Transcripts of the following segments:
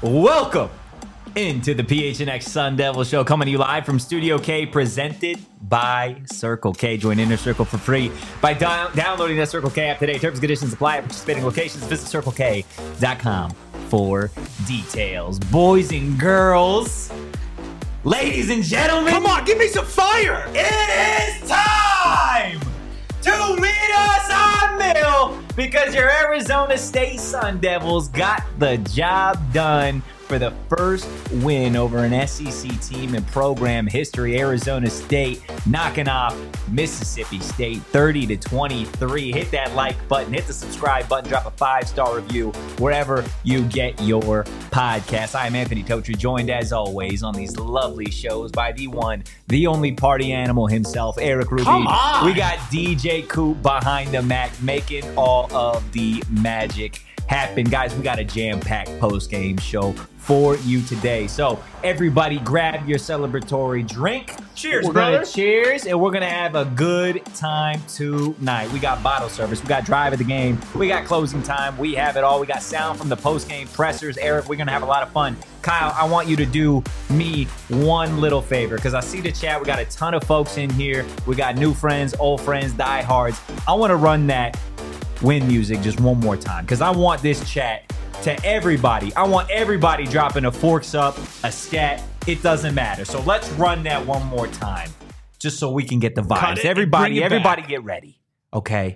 Welcome into the PHNX Sun Devil Show, coming to you live from Studio K, presented by Circle K. Join Inner Circle for free by downloading the Circle K app today. Terms and conditions apply at participating locations. Visit CircleK.com for details. Boys and girls, ladies and gentlemen, come on, give me some fire! It is time to meet us on Mill, because your Arizona State Sun Devils got the job done for the first win over an SEC team in program history. Arizona State knocking off Mississippi State 30-23. Hit that like button, hit the subscribe button, drop a 5-star review wherever you get your podcast. I am Anthony Totri, joined as always on these lovely shows by the one, the only party animal himself, Eric Rubin. Come on! We got DJ Coop behind the Mac, making all of the magic happen. Guys, we got a jam-packed post-game show for you today. So everybody grab your celebratory drink. Cheers, we're brother. Gonna cheers, and we're going to have a good time tonight. We got bottle service. We got drive of the game. We got closing time. We have it all. We got sound from the post-game pressers. Eric, we're going to have a lot of fun. Kyle, I want you to do me one little favor, because I see the chat. We got a ton of folks in here. We got new friends, old friends, diehards. I want to run that win music just one more time, because I want this chat to everybody. I want everybody dropping a forks up, a scat. It doesn't matter. So let's run that one more time, just so we can get the vibes. Everybody get ready. Okay.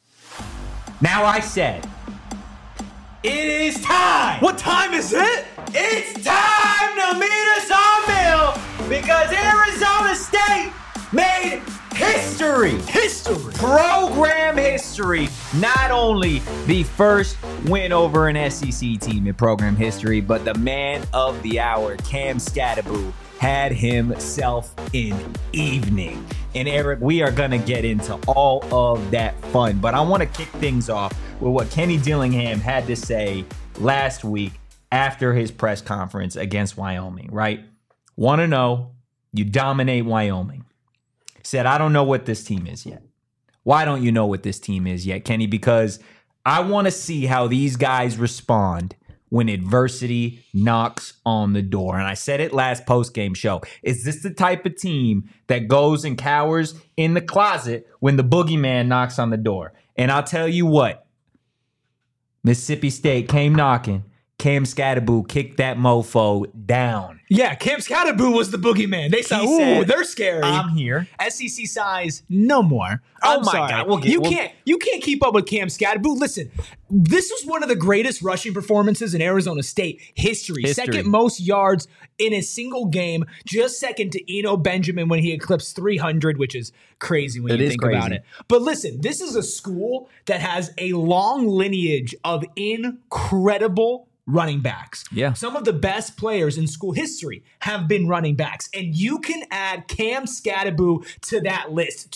Now I said, it is time. What time is it? It's time to meet us on Mill, because Arizona State made history. Program history. Not only the first win over an SEC team in program history, but the man of the hour, Cam Skattebo, had himself an evening. And Eric, we are going to get into all of that fun, but I want to kick things off with what Kenny Dillingham had to say last week after his press conference against Wyoming, right? Want to know, you dominate Wyoming. Said, I don't know what this team is yet. Why don't you know what this team is yet, Kenny? Because I want to see how these guys respond when adversity knocks on the door. And I said it last post-game show. Is this the type of team that goes and cowers in the closet when the boogeyman knocks on the door? And I'll tell you what. Mississippi State came knocking. Cam Skattebo kicked that mofo down. Yeah, Cam Skattebo was the boogeyman. They said, ooh, they're scary. I'm here. SEC size, no more. Oh my God. You can't keep up with Cam Skattebo. Listen, this was one of the greatest rushing performances in Arizona State history. Second most yards in a single game, just second to Eno Benjamin when he eclipsed 300, which is crazy when you think about it. But listen, this is a school that has a long lineage of incredible running backs. Yeah. Some of the best players in school history have been running backs. And you can add Cam Skattebo to that list.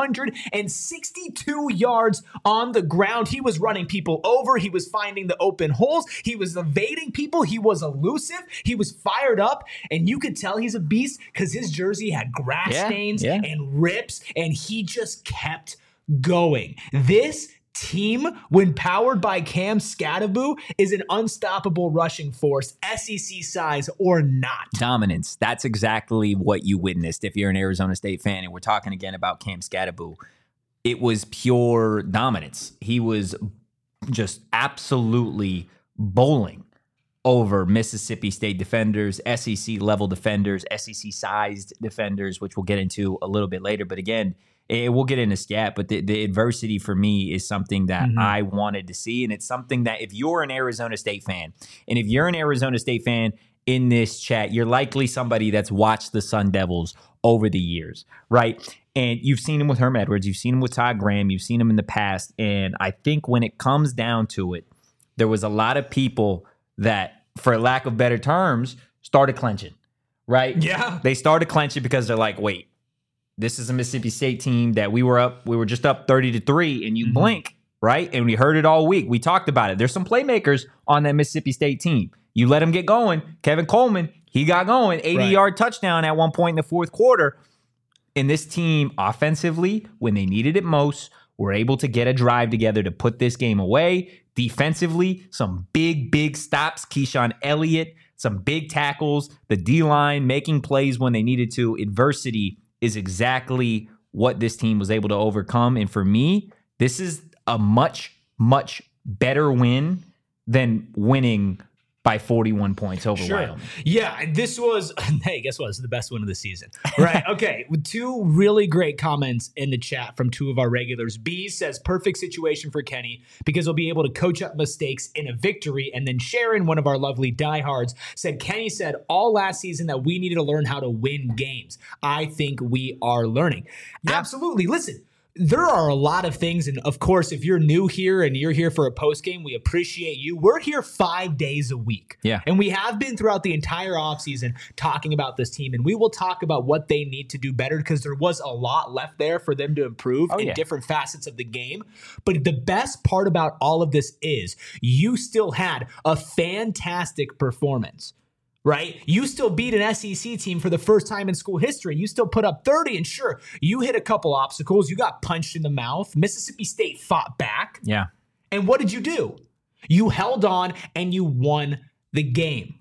262 yards on the ground. He was running people over. He was finding the open holes. He was evading people. He was elusive. He was fired up. And you could tell he's a beast because his jersey had grass stains and rips. And he just kept going. This team, when powered by Cam Skattebo, is an unstoppable rushing force, SEC size or not. Dominance. That's exactly what you witnessed if you're an Arizona State fan. And we're talking again about Cam Skattebo. It was pure dominance. He was just absolutely bowling over Mississippi State defenders, SEC-level defenders, SEC-sized defenders, which we'll get into a little bit later. But again, we'll get into stat, but the adversity for me is something that I wanted to see. And it's something that if you're an Arizona State fan, and if you're an Arizona State fan in this chat, you're likely somebody that's watched the Sun Devils over the years, right? And you've seen him with Herm Edwards. You've seen him with Todd Graham. You've seen him in the past. And I think when it comes down to it, there was a lot of people that, for lack of better terms, started clenching, right? Yeah. They started clenching because they're like, wait, this is a Mississippi State team that we were just up 30-3, and you blink, right? And we heard it all week. We talked about it. There's some playmakers on that Mississippi State team. You let them get going. Kevin Coleman, he got going. 80-yard touchdown at one point in the fourth quarter. And this team, offensively, when they needed it most, were able to get a drive together to put this game away. Defensively, some big stops. Keyshawn Elliott, some big tackles. The D-line making plays when they needed to. Adversity is exactly what this team was able to overcome. And for me, this is a much better win than winning by 41 points over Wyoming. Yeah, this was, hey, guess what? This is the best win of the season. Right. Okay. With two really great comments in the chat from two of our regulars. B says, perfect situation for Kenny because he'll be able to coach up mistakes in a victory. And then Sharon, one of our lovely diehards, said, Kenny said all last season that we needed to learn how to win games. I think we are learning. Yeah. Absolutely. Listen. There are a lot of things, and of course, if you're new here and you're here for a post game, we appreciate you. We're here 5 days a week. Yeah. And we have been throughout the entire offseason talking about this team, and we will talk about what they need to do better because there was a lot left there for them to improve in different facets of the game. But the best part about all of this is you still had a fantastic performance. Right? You still beat an SEC team for the first time in school history. You still put up 30, and sure, you hit a couple obstacles. You got punched in the mouth. Mississippi State fought back. Yeah. And what did you do? You held on, and you won the game.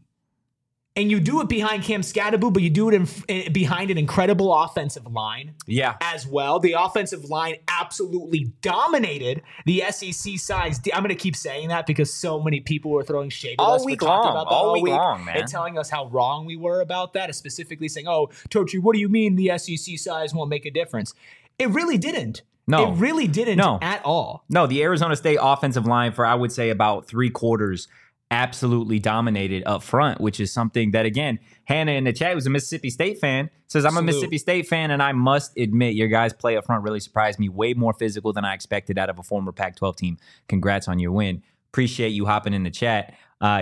And you do it behind Cam Skattebo, but you do it behind an incredible offensive line as well. The offensive line absolutely dominated the SEC size. I'm going to keep saying that because so many people were throwing shade at us. All week long, man. And telling us how wrong we were about that, specifically saying, oh, Tochi, what do you mean the SEC size won't make a difference? It really didn't. No. It really didn't at all. No, the Arizona State offensive line for, I would say, about 3/4 absolutely dominated up front, which is something that, again, Hannah in the chat, who's a Mississippi State fan, says, I'm a Mississippi State fan, and I must admit your guys' play up front really surprised me. Way more physical than I expected out of a former Pac-12 team. Congrats on your win. Appreciate you hopping in the chat.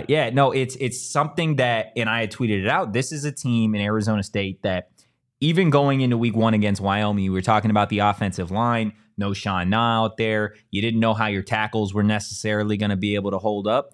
It's something that, and I had tweeted it out, this is a team in Arizona State that even going into week 1 against Wyoming, we were talking about the offensive line, no Sean Na out there. You didn't know how your tackles were necessarily going to be able to hold up.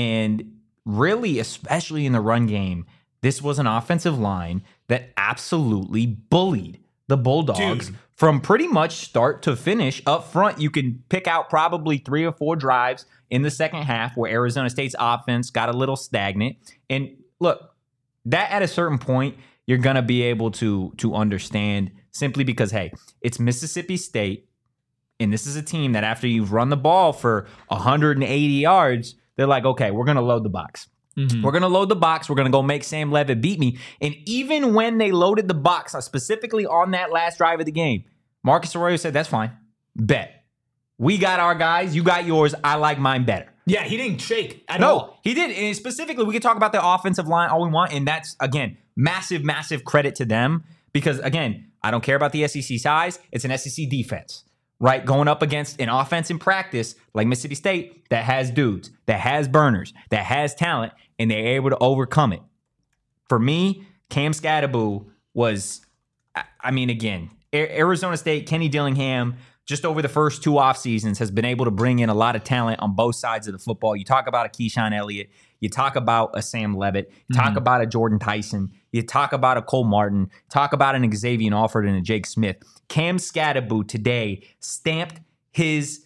And really, especially in the run game, this was an offensive line that absolutely bullied the Bulldogs from pretty much start to finish. Up front, you can pick out probably 3 or 4 drives in the second half where Arizona State's offense got a little stagnant. And look, that at a certain point, you're going to be able to understand simply because, hey, it's Mississippi State, and this is a team that after you've run the ball for 180 yards, they're like, okay, we're going to load the box. Mm-hmm. We're going to load the box. We're going to go make Sam Levitt beat me. And even when they loaded the box, specifically on that last drive of the game, Marcus Arroyo said, that's fine. Bet. We got our guys. You got yours. I like mine better. Yeah, he didn't shake at all. No, he did. And specifically, we can talk about the offensive line all we want. And that's, again, massive credit to them. Because, again, I don't care about the SEC size. It's an SEC defense. Right, going up against an offense in practice like Mississippi State that has dudes, that has burners, that has talent, and they're able to overcome it. For me, Cam Skattebo was, I mean, again, Arizona State, Kenny Dillingham, just over the first 2 off seasons, has been able to bring in a lot of talent on both sides of the football. You talk about a Keyshawn Elliott, you talk about a Sam Levitt, talk about a Jordan Tyson, you talk about a Cole Martin, talk about an Xavier Alford and a Jake Smith. Cam Skattebo today stamped his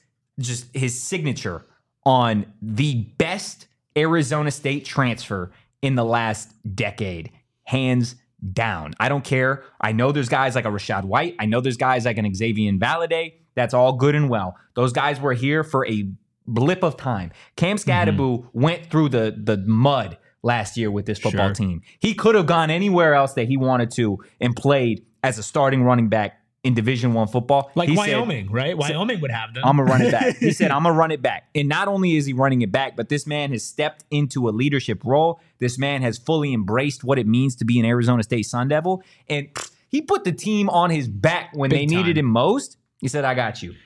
signature on the best Arizona State transfer in the last decade, hands down. I don't care. I know there's guys like a Rashad White. I know there's guys like an Xavier Valade. That's all good and well. Those guys were here for a blip of time. Cam Skattebo went through the mud last year with this football team. He could have gone anywhere else that he wanted to and played as a starting running back in Division I football. Like Wyoming, right? Wyoming would have them. I'm going to run it back. He said, I'm going to run it back. And not only is he running it back, but this man has stepped into a leadership role. This man has fully embraced what it means to be an Arizona State Sun Devil. And he put the team on his back when they needed him most. He said, I got you.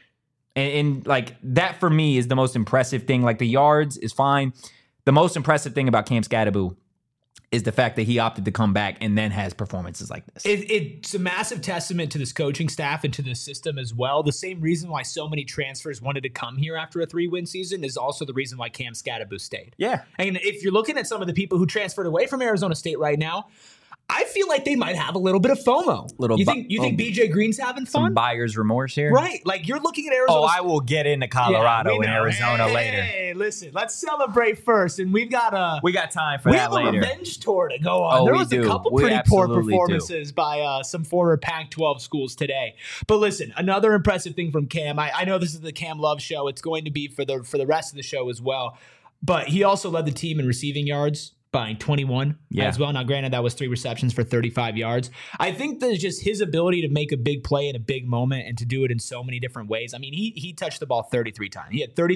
And like that for me is the most impressive thing. Like the yards is fine. The most impressive thing about Cam Skattebo is the fact that he opted to come back and then has performances like this. It's a massive testament to this coaching staff and to the system as well. The same reason why so many transfers wanted to come here after a 3-win season is also the reason why Cam Skattebo stayed. Yeah. And if you're looking at some of the people who transferred away from Arizona State right now, I feel like they might have a little bit of FOMO. You think BJ Green's having fun? Some buyer's remorse here? Right. Like, you're looking at Arizona. Oh, I will get into Colorado and Arizona later. Hey, listen, let's celebrate first. And we've got time for that later. We have a revenge tour to go on. There was a couple pretty poor performances by some former Pac-12 schools today. But listen, another impressive thing from Cam. I know this is the Cam Love show. It's going to be for the rest of the show as well. But he also led the team in receiving yards by 21 as well. Now, granted, that was 3 receptions for 35 yards. I think that just his ability to make a big play in a big moment and to do it in so many different ways. I mean, he touched the ball 33 times. He had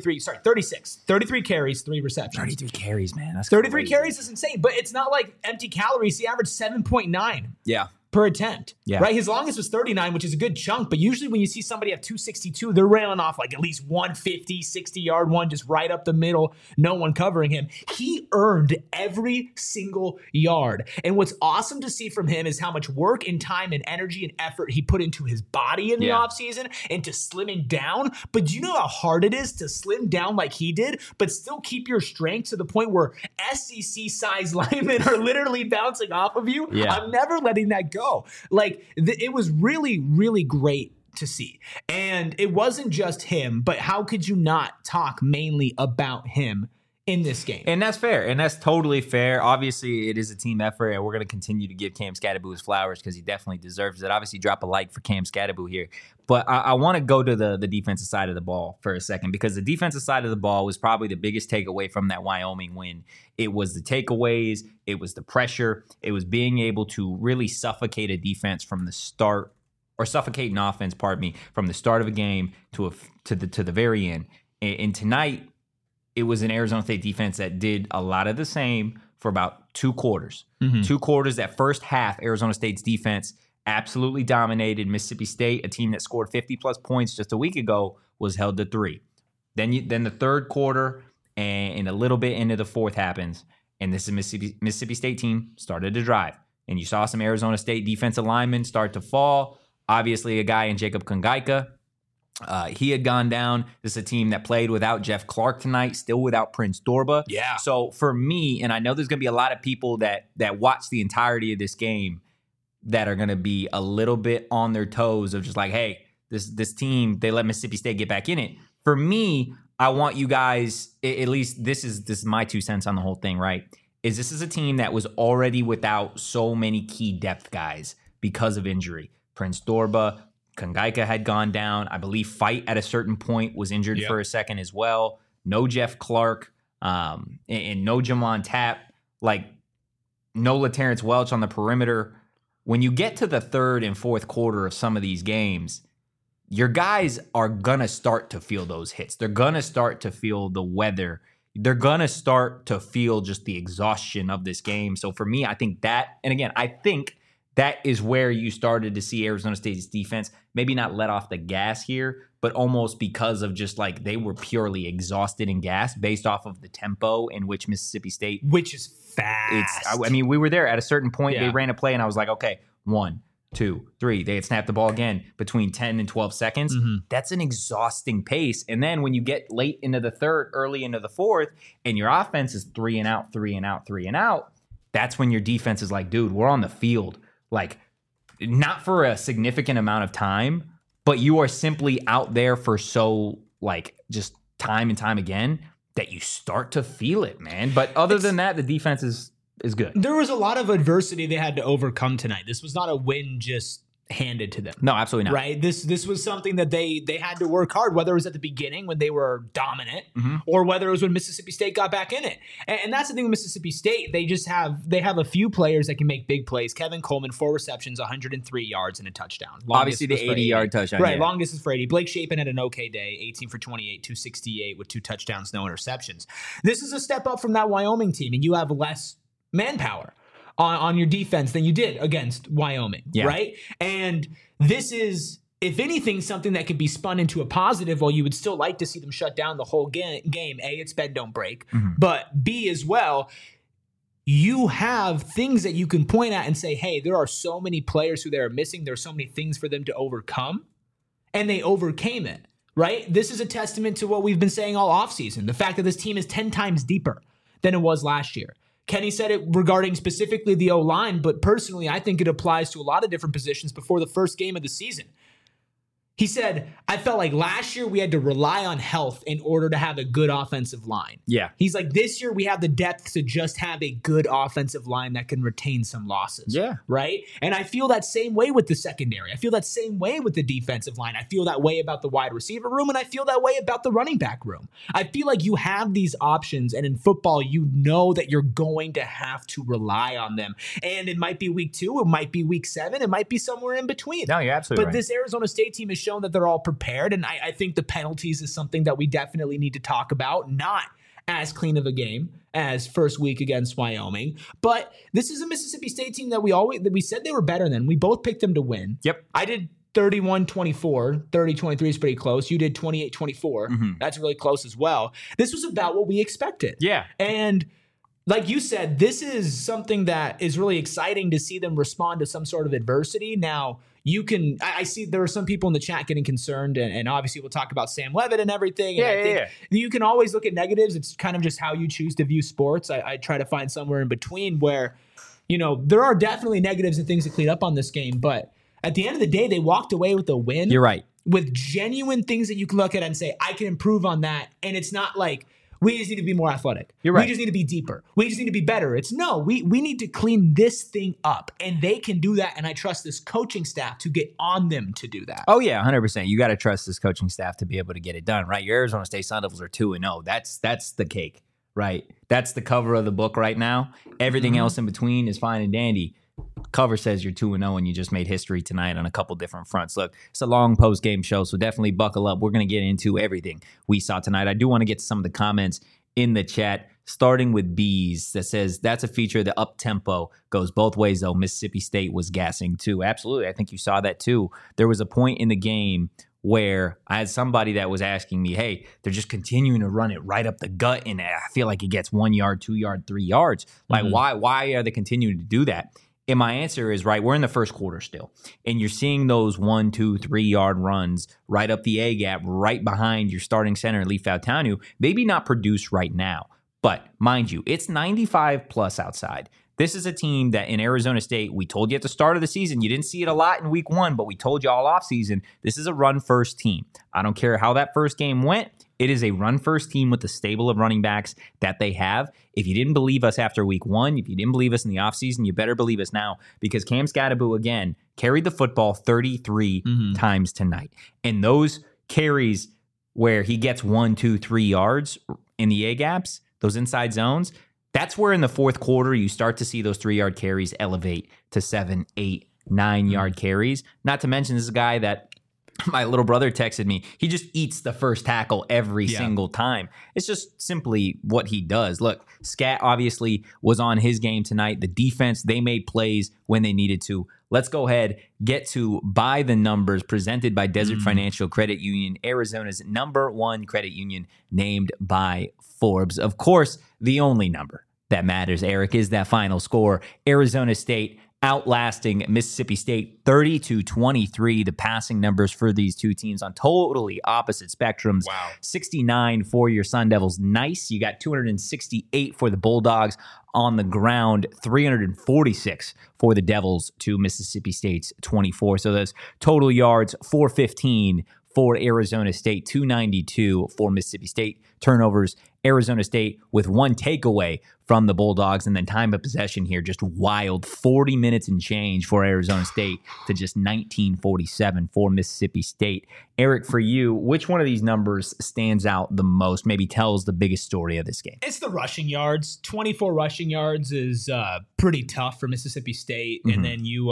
33 carries, 3 receptions. 33 carries, man. That's 33 carries is insane, but it's not like empty calories. He averaged 7.9. Per attempt, right? His longest was 39, which is a good chunk. But usually when you see somebody have 262, they're railing off like at least 150, 60-yard one, just right up the middle, no one covering him. He earned every single yard. And what's awesome to see from him is how much work and time and energy and effort he put into his body in the offseason and to slimming down. But do you know how hard it is to slim down like he did, but still keep your strength to the point where SEC-sized linemen are literally bouncing off of you? I'm never letting that go. Like, it was really, really great to see. And it wasn't just him, but how could you not talk mainly about him in this game? And that's fair. And that's totally fair. Obviously, it is a team effort, and we're going to continue to give Cam Skattebo his flowers because he definitely deserves it. Obviously, drop a like for Cam Skattebo here. But I want to go to the defensive side of the ball for a second, because the defensive side of the ball was probably the biggest takeaway from that Wyoming win. It was the takeaways. It was the pressure. It was being able to really suffocate a defense from the start, or suffocate an offense, pardon me, from the start of a game to the very end. And tonight, it was an Arizona State defense that did a lot of the same for about 2 quarters. 2 quarters, that first half, Arizona State's defense absolutely dominated Mississippi State, a team that scored 50-plus points just a week ago, was held to 3. Then the third quarter and a little bit into the fourth happens, and this is Mississippi State team started to drive. And you saw some Arizona State defensive linemen start to fall. Obviously, a guy in Jacob Kongaika, he had gone down. This is a team that played without Jeff Clark tonight, still without Prince Dorba. So for me, and I know there's going to be a lot of people that watch the entirety of this game that are going to be a little bit on their toes of just like, hey, this team, they let Mississippi State get back in it. For me, I want you guys, at least this is my 2 cents on the whole thing, right? This is a team that was already without so many key depth guys because of injury. Prince Dorba, Kongaika had gone down. I believe Fight at a certain point was injured for a second as well. No Jeff Clark, and no Jamon Tapp, like no LaTerrence Welch on the perimeter. When you get to the third and fourth quarter of some of these games, your guys are going to start to feel those hits. They're going to start to feel the weather. They're going to start to feel just the exhaustion of this game. So for me, I think that, and again, I think that is where you started to see Arizona State's defense maybe not let off the gas here, but almost because of just like they were purely exhausted and gassed based off of the tempo in which Mississippi State, which is fast. I mean, we were there at a certain point. They ran a play and I was like, okay, 1, 2, 3. They had snapped the ball again between 10 and 12 seconds. That's an exhausting pace. And then when you get late into the third, early into the fourth, and your offense is 3 and out, 3 and out, 3 and out, that's when your defense is like, dude, we're on the field. Like, not for a significant amount of time, but you are simply out there for so, like, just time and time again that you start to feel it, man. But other than that, the defense is good. There was a lot of adversity they had to overcome tonight. This was not a win just handed to them. No, absolutely not. Right? This was something that they had to work hard, whether it was at the beginning when they were dominant or whether it was when Mississippi State got back in it. And that's the thing with Mississippi State. They have a few players that can make big plays. Kevin Coleman, 4 receptions, 103 yards and a touchdown. Obviously the 80-yard touchdown. Right, longest is for 80. Blake Shapen had an okay day, 18 for 28, 268 with 2 touchdowns, no interceptions. This is a step up from that Wyoming team, and you have less manpower on your defense than you did against Wyoming, right? And this is, if anything, something that could be spun into a positive. While you would still like to see them shut down the whole game. A, it's bend, don't break. But B, as well, you have things that you can point at and say, hey, there are so many players who they are missing. There are so many things for them to overcome. And they overcame it, right? This is a testament to what we've been saying all offseason. The fact that this team is 10 times deeper than it was last year. Kenny said it regarding specifically the O-line, but personally, I think it applies to a lot of different positions before the first game of the season. He said, I felt like last year we had to rely on health in order to have a good offensive line. Yeah. He's like, this year we have the depth to just have a good offensive line that can retain some losses. Yeah. Right? And I feel that same way with the secondary. I feel that same way with the defensive line. I feel that way about the wide receiver room, and I feel that way about the running back room. I feel like you have these options, and in football, you know that you're going to have to rely on them. And it might be week 2, it might be week 7, it might be somewhere in between. No, you're absolutely right. But this Arizona State team has shown that they're all prepared, and I think the penalties is something that we definitely need to talk about. Not as clean of a game as first week against Wyoming, but this is a Mississippi State team that we said they were better than. We both picked them to win. Yep. I did 31-24, 30-23 is pretty close. You did 28-24. Mm-hmm. That's really close as well. This was about what we expected. Yeah. And like you said, this is something that is really exciting to see them respond to some sort of adversity. Now, I see there are some people in the chat getting concerned, and obviously we'll talk about Sam Levitt and everything. And I think you can always look at negatives. It's kind of just how you choose to view sports. I try to find somewhere in between where, there are definitely negatives and things to clean up on this game. But at the end of the day, they walked away with a win. You're right. With genuine things that you can look at and say, I can improve on that. And it's not like, we just need to be more athletic. You're right. We just need to be deeper. We just need to be better. It's no, we need to clean this thing up. And they can do that. And I trust this coaching staff to get on them to do that. Oh, yeah, 100%. You got to trust this coaching staff to be able to get it done, right? Your Arizona State Sun Devils are 2-0. That's the cake, right? That's the cover of the book right now. Everything else in between is fine and dandy. Cover says you're 2-0 and you just made history tonight on a couple different fronts. Look, it's a long post-game show, so definitely buckle up. We're going to get into everything we saw tonight. I do want to get to some of the comments in the chat, starting with Bees that says that's a feature. The up tempo goes both ways, though. Mississippi State was gassing too. Absolutely. I think you saw that too. There was a point in the game where I had somebody that was asking me, hey, they're just continuing to run it right up the gut, and I feel like it gets 1 yard, 2 yard, 3 yards. Like, why are they continuing to do that? And my answer is, right, we're in the first quarter still, and you're seeing those 1, 2, 3 yard runs right up the A gap, right behind your starting center, Leif Fautanu. Maybe not produce right now, but mind you, it's 95 plus outside. This is a team that in Arizona State, we told you at the start of the season, you didn't see it a lot in week 1, but we told you all offseason, this is a run-first team. I don't care how that first game went. It is a run-first team with the stable of running backs that they have. If you didn't believe us after week 1, if you didn't believe us in the offseason, you better believe us now, because Cam Skattebo, again, carried the football 33 times tonight. And those carries where he gets 1, 2, 3 yards in the A-gaps, those inside zones, that's where in the fourth quarter you start to see those 3 yard carries elevate to 7, 8, 9 yard carries. Not to mention, this is a guy that my little brother texted me. He just eats the first tackle every single time. It's just simply what he does. Look, Scat obviously was on his game tonight. The defense, they made plays when they needed to. Let's go ahead, get to By the Numbers, presented by Desert Financial Credit Union, Arizona's #1 credit union, named by Forbes. Of course, the only number that matters, Eric, is that final score. Arizona State outlasting Mississippi State 30-23. The passing numbers for these two teams on totally opposite spectrums. Wow. 69 for your Sun Devils. Nice. You got 268 for the Bulldogs on the ground. 346 for the Devils to Mississippi State's 24. So those total yards, 415 for Arizona State, 292 for Mississippi State. Turnovers, Arizona State with 1 takeaway from the Bulldogs, and then time of possession here, just wild 40 minutes and change for Arizona State to just 19:47 for Mississippi State. Eric, for you, which one of these numbers stands out the most, maybe tells the biggest story of this game? It's the rushing yards. 24 rushing yards is pretty tough for Mississippi State, and then you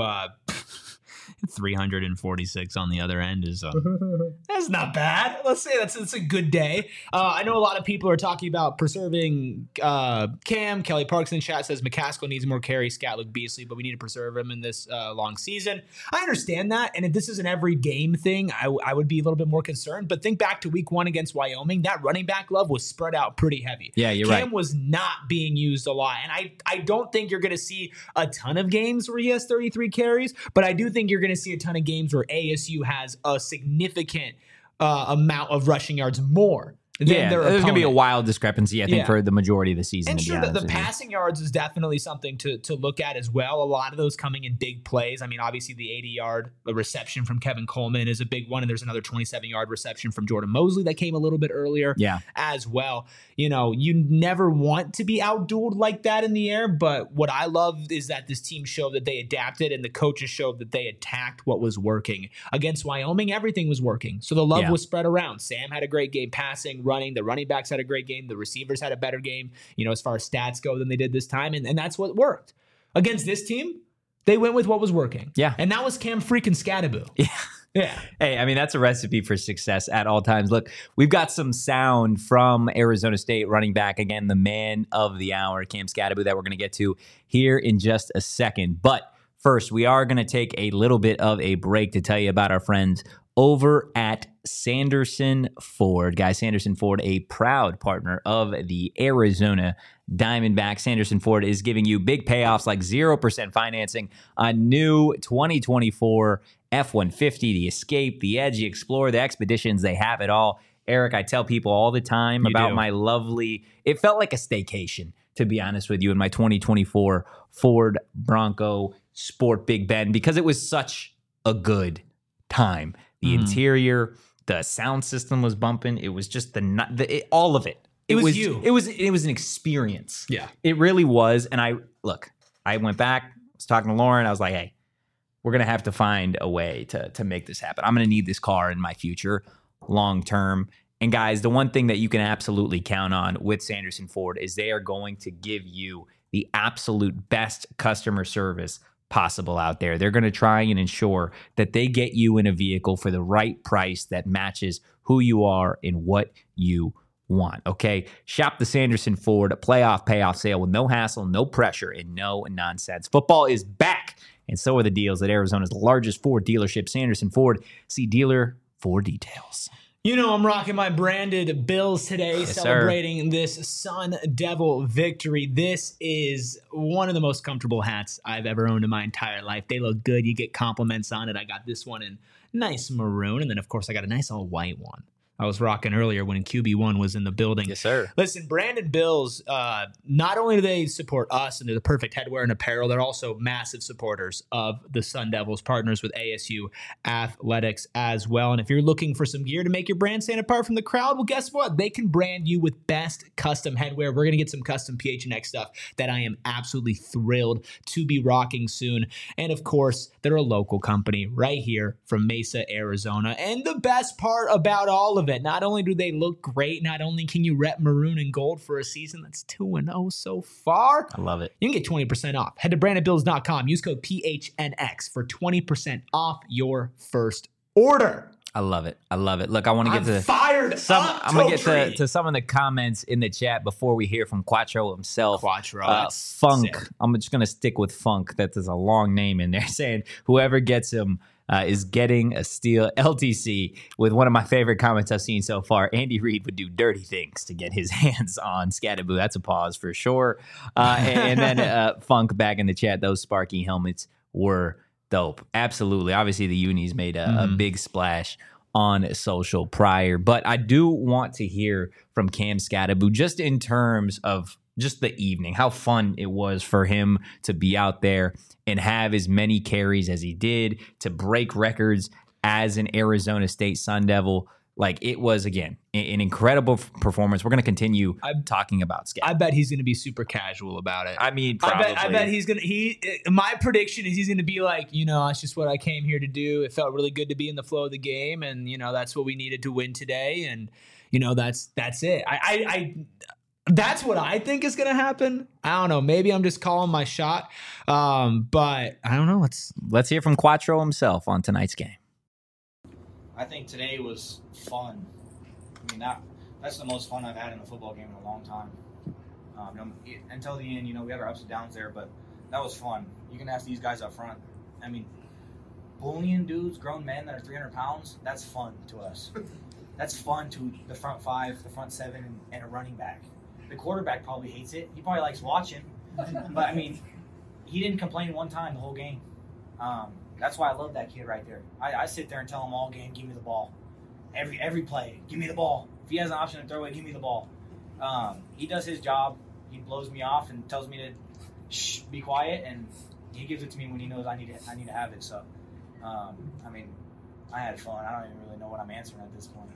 346 on the other end is that's not bad. Let's say that's a good day. I know a lot of people are talking about preserving Cam. Kelly Parks in chat says McCaskill needs more carries. Scat looked beastly, but we need to preserve him in this long season. I understand that, and if this is an every game thing, I would be a little bit more concerned. But think back to week 1 against Wyoming. That running back love was spread out pretty heavy. Yeah, you're Cam right. was not being used a lot, and I don't think you're going to see a ton of games where he has 33 carries, but I do think you're going to see a ton of games where ASU has a significant amount of rushing yards more Yeah, there's going to be a wild discrepancy, I think, for the majority of the season. And sure, the passing yards is definitely something to look at as well. A lot of those coming in big plays. I mean, obviously the 80-yard reception from Kevin Coleman is a big one, and there's another 27-yard reception from Jordan Mosley that came a little bit earlier as well. You know, you never want to be outdueled like that in the air, but what I love is that this team showed that they adapted and the coaches showed that they attacked what was working. Against Wyoming, everything was working. So the love was spread around. Sam had a great game passing, running. The running backs had a great game. The receivers had a better game, you know, as far as stats go than they did this time. And that's what worked. Against this team, they went with what was working. Yeah. And that was Cam freaking Skattebo. Yeah. Yeah. Hey, I mean, that's a recipe for success at all times. Look, we've got some sound from Arizona State running back, again, the man of the hour, Cam Skattebo, that we're going to get to here in just a second. But first, we are going to take a little bit of a break to tell you about our friends over at Sanderson Ford. Guys, Sanderson Ford, a proud partner of the Arizona Diamondbacks. Sanderson Ford is giving you big payoffs like 0% financing on new 2024 F-150, the Escape, the Edge, the Explorer, the Expeditions. They have it all. Eric, I tell people all the time about my lovely, it felt like a staycation, to be honest with you, in my 2024 Ford Bronco Sport Big Bend, because it was such a good time. The interior, the sound system was bumping. It was just all of it. It was you. It was an experience. Yeah. It really was. And I went back, was talking to Lauren. I was like, hey, we're going to have to find a way to make this happen. I'm going to need this car in my future long term. And guys, the one thing that you can absolutely count on with Sanderson Ford is they are going to give you the absolute best customer service possible out there. They're going to try and ensure that they get you in a vehicle for the right price that matches who you are and what you want. Okay, shop the Sanderson Ford playoff payoff sale with no hassle, no pressure, and no nonsense. Football is back, and so are the deals at Arizona's largest Ford dealership, Sanderson Ford. See dealer for details. You know, I'm rocking my branded Bills today, celebrating this Sun Devil victory. This is one of the most comfortable hats I've ever owned in my entire life. They look good. You get compliments on it. I got this one in nice maroon, and then, of course, I got a nice all white one I was rocking earlier when QB1 was in the building. Yes, sir. Listen, Brandon Bills, not only do they support us and they're the perfect headwear and apparel, they're also massive supporters of the Sun Devils, partners with ASU Athletics as well. And if you're looking for some gear to make your brand stand apart from the crowd, well, guess what? They can brand you with best custom headwear. We're going to get some custom PHNX stuff that I am absolutely thrilled to be rocking soon. And of course, they're a local company right here from Mesa, Arizona. And the best part about all of it, not only do they look great, not only can you rep maroon and gold for a season that's 2-0 so far. I love it. You can get 20% off. Head to brandonbills.com. Use code PHNX for 20% off your first order. I love it. I love it. Look, I want to get to I'm going to get to some of the comments in the chat before we hear from Quattro himself. Quattro. Funk. Sick. I'm just going to stick with Funk. That is a long name in there, saying whoever gets him is getting a steal. LTC with one of my favorite comments I've seen so far. Andy Reid would do dirty things to get his hands on Skattebo. That's a pause for sure. And then Funk back in the chat. Those Sparky helmets were dope. Absolutely. Obviously, the unis made a big splash on social prior. But I do want to hear from Cam Skattebo just in terms of just the evening, how fun it was for him to be out there and have as many carries as he did, to break records as an Arizona State Sun Devil. Like, it was, again, an incredible performance. We're going to continue talking about Skattebo. I bet he's going to be super casual about it. I mean, probably. I bet he's going to, my prediction is he's going to be like, you know, that's just what I came here to do. It felt really good to be in the flow of the game. And, you know, that's what we needed to win today. And, you know, that's it. That's what I think is going to happen. I don't know. Maybe I'm just calling my shot. But I don't know. Let's hear from Quattro himself on tonight's game. I think today was fun. I mean, that's the most fun I've had in a football game in a long time. Until the end, you know, we had our ups and downs there, but that was fun. You can ask these guys up front. I mean, bullying dudes, grown men that are 300 pounds, that's fun to us. That's fun to the front five, the front seven, and a running back. The quarterback probably hates it. He probably likes watching. But, I mean, he didn't complain one time the whole game. That's why I love that kid right there. I sit there and tell him all game, give me the ball. Every play, give me the ball. If he has an option to throw it, give me the ball. He does his job. He blows me off and tells me to be quiet, and he gives it to me when he knows I need to have it. So, I mean, I had fun. I don't even really know what I'm answering at this point.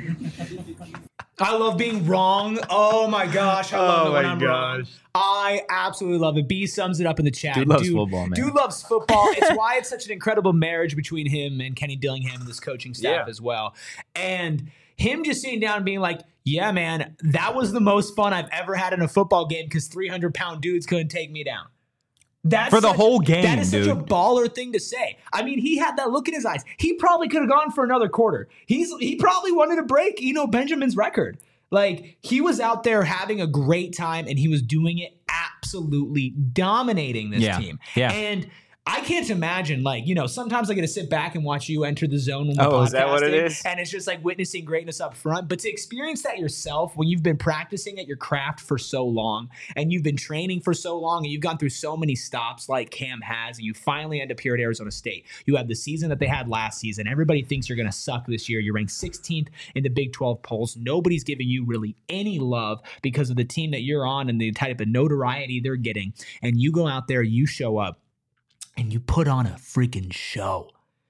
I love being wrong. Oh my gosh, I love it when I'm wrong. I absolutely love it. B sums it up in the chat. Dude loves football, man. Dude loves football. It's why it's such an incredible marriage between him and Kenny Dillingham and this coaching staff as well. And him just sitting down and being like, yeah, man, that was the most fun I've ever had in a football game because 300-pound dudes couldn't take me down. That's for the whole game, that is dude. Such a baller thing to say. I mean, he had that look in his eyes. He probably could have gone for another quarter. He probably wanted to break, Benjamin's record. Like, he was out there having a great time, and he was doing it absolutely dominating this team. Yeah. And I can't imagine, sometimes I get to sit back and watch you enter the zone when we're podcasting. Is that what it is? And it's just like witnessing greatness up front. But to experience that yourself when you've been practicing at your craft for so long and you've been training for so long and you've gone through so many stops like Cam has, and you finally end up here at Arizona State. You have the season that they had last season. Everybody thinks you're going to suck this year. You're ranked 16th in the Big 12 polls. Nobody's giving you really any love because of the team that you're on and the type of notoriety they're getting. And you go out there, you show up, and you put on a freaking show.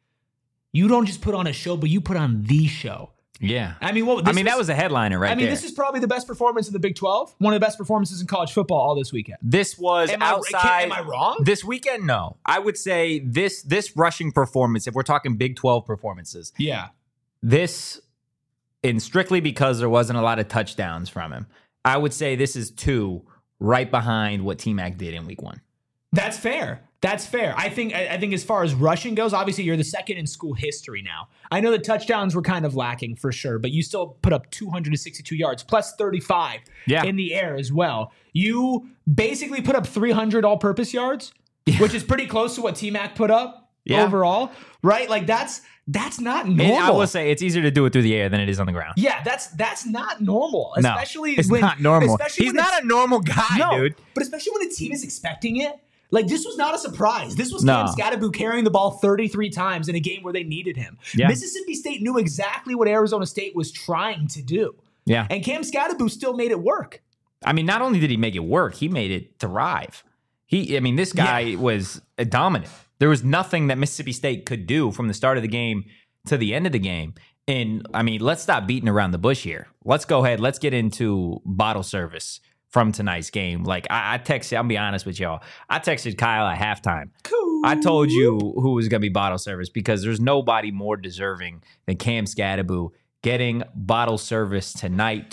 You don't just put on a show, but you put on the show. Yeah. I mean, that was a headliner right there. This is probably the best performance in the Big 12. One of the best performances in college football all this weekend. This was outside. Am I wrong? This weekend, no. I would say this rushing performance, if we're talking Big 12 performances. Yeah. This, and strictly because there wasn't a lot of touchdowns from him, I would say this is 2 right behind what T-Mac did in week 1. That's fair. That's fair. I think as far as rushing goes, obviously you're the second in school history now. I know the touchdowns were kind of lacking for sure, but you still put up 262 yards plus 35 in the air as well. You basically put up 300 all-purpose yards, which is pretty close to what T-Mac put up overall, right? Like that's not normal. I will say it's easier to do it through the air than it is on the ground. Yeah, that's not normal. Especially it's not normal. He's not a normal guy, dude. But especially when a team is expecting it. Like, this was not a surprise. This was Cam Skattebo carrying the ball 33 times in a game where they needed him. Yeah. Mississippi State knew exactly what Arizona State was trying to do. Yeah. And Cam Skattebo still made it work. I mean, not only did he make it work, he made it thrive. This guy was dominant. There was nothing that Mississippi State could do from the start of the game to the end of the game. And, let's stop beating around the bush here. Let's go ahead. Let's get into bottle service from tonight's game. Like, I texted, I'll be honest with y'all, I texted Kyle at halftime. Cool. I told you who was going to be bottle service because there's nobody more deserving than Cam Skattebo getting bottle service tonight.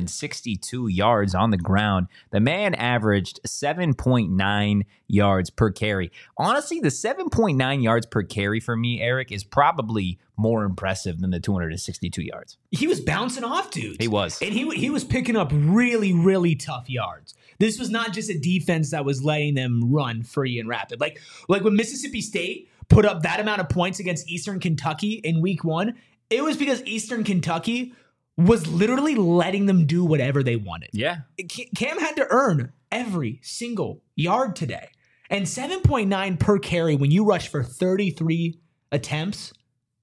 262 yards on the ground. The man averaged 7.9 yards per carry. Honestly, the 7.9 yards per carry for me, Eric, is probably more impressive than the 262 yards. He was bouncing off dudes. He was. And he was picking up really, really tough yards. This was not just a defense that was letting them run free and rapid. Like when Mississippi State put up that amount of points against Eastern Kentucky in week 1, it was because Eastern Kentucky was literally letting them do whatever they wanted. Yeah. Cam had to earn every single yard today. And 7.9 per carry when you rush for 33 attempts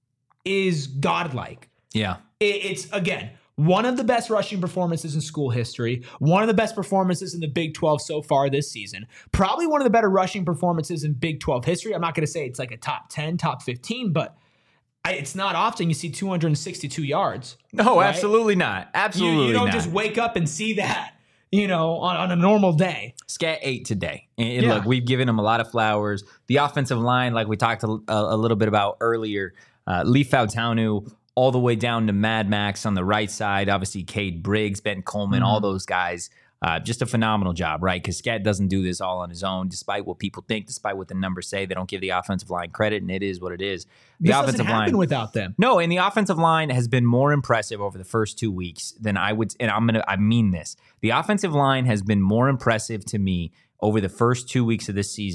is godlike. Yeah. It's, again, one of the best rushing performances in school history, one of the best performances in the Big 12 so far this season, probably one of the better rushing performances in Big 12 history. I'm not going to say it's like a top 10, top 15, but it's not often you see 262 yards. No, right? Absolutely not. Absolutely you don't not. just wake up and see that, on a normal day. Scat 8 today. And look, we've given him a lot of flowers. The offensive line, like we talked a little bit about earlier, Lee Fautanu all the way down to Mad Max on the right side. Obviously, Cade Briggs, Ben Coleman, all those guys. Just a phenomenal job, right? Because Scat doesn't do this all on his own, despite what people think, despite what the numbers say. They don't give the offensive line credit, and it is what it is. This doesn't happen without them. No, and the offensive line has been more impressive over the first 2 weeks than I would. And I mean this. The offensive line has been more impressive to me over the first 2 weeks of this season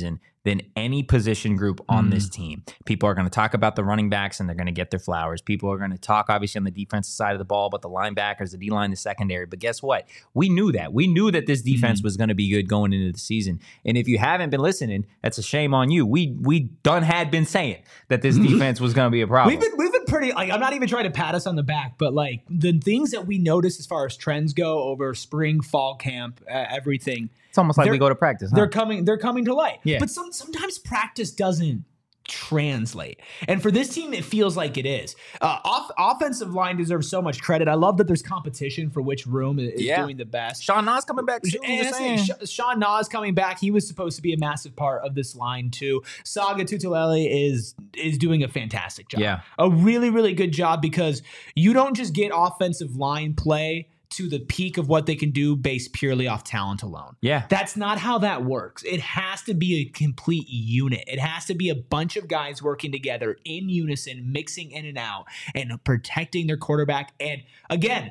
than any position group on this team. People are going to talk about the running backs and they're going to get their flowers. People are going to talk, obviously, on the defensive side of the ball about the linebackers, the D-line, the secondary. But guess what? We knew that. We knew that this defense was going to be good going into the season. And if you haven't been listening, that's a shame on you. We had been saying that this defense was going to be a problem. We've been pretty, like, I'm not even trying to pat us on the back, but like the things that we notice as far as trends go over spring, fall camp, everything. It's almost like we go to practice. Huh? They're coming to light. Yeah. But sometimes practice doesn't translate. And for this team, it feels like it is. Offensive line deserves so much credit. I love that there's competition for which room is doing the best. Sean Nas coming back too. Sean Nas coming back. He was supposed to be a massive part of this line too. Saga Tutulele is doing a fantastic job. Yeah. A really, really good job, because you don't just get offensive line play to the peak of what they can do based purely off talent alone. Yeah. That's not how that works. It has to be a complete unit. It has to be a bunch of guys working together in unison, mixing in and out, and protecting their quarterback. And again,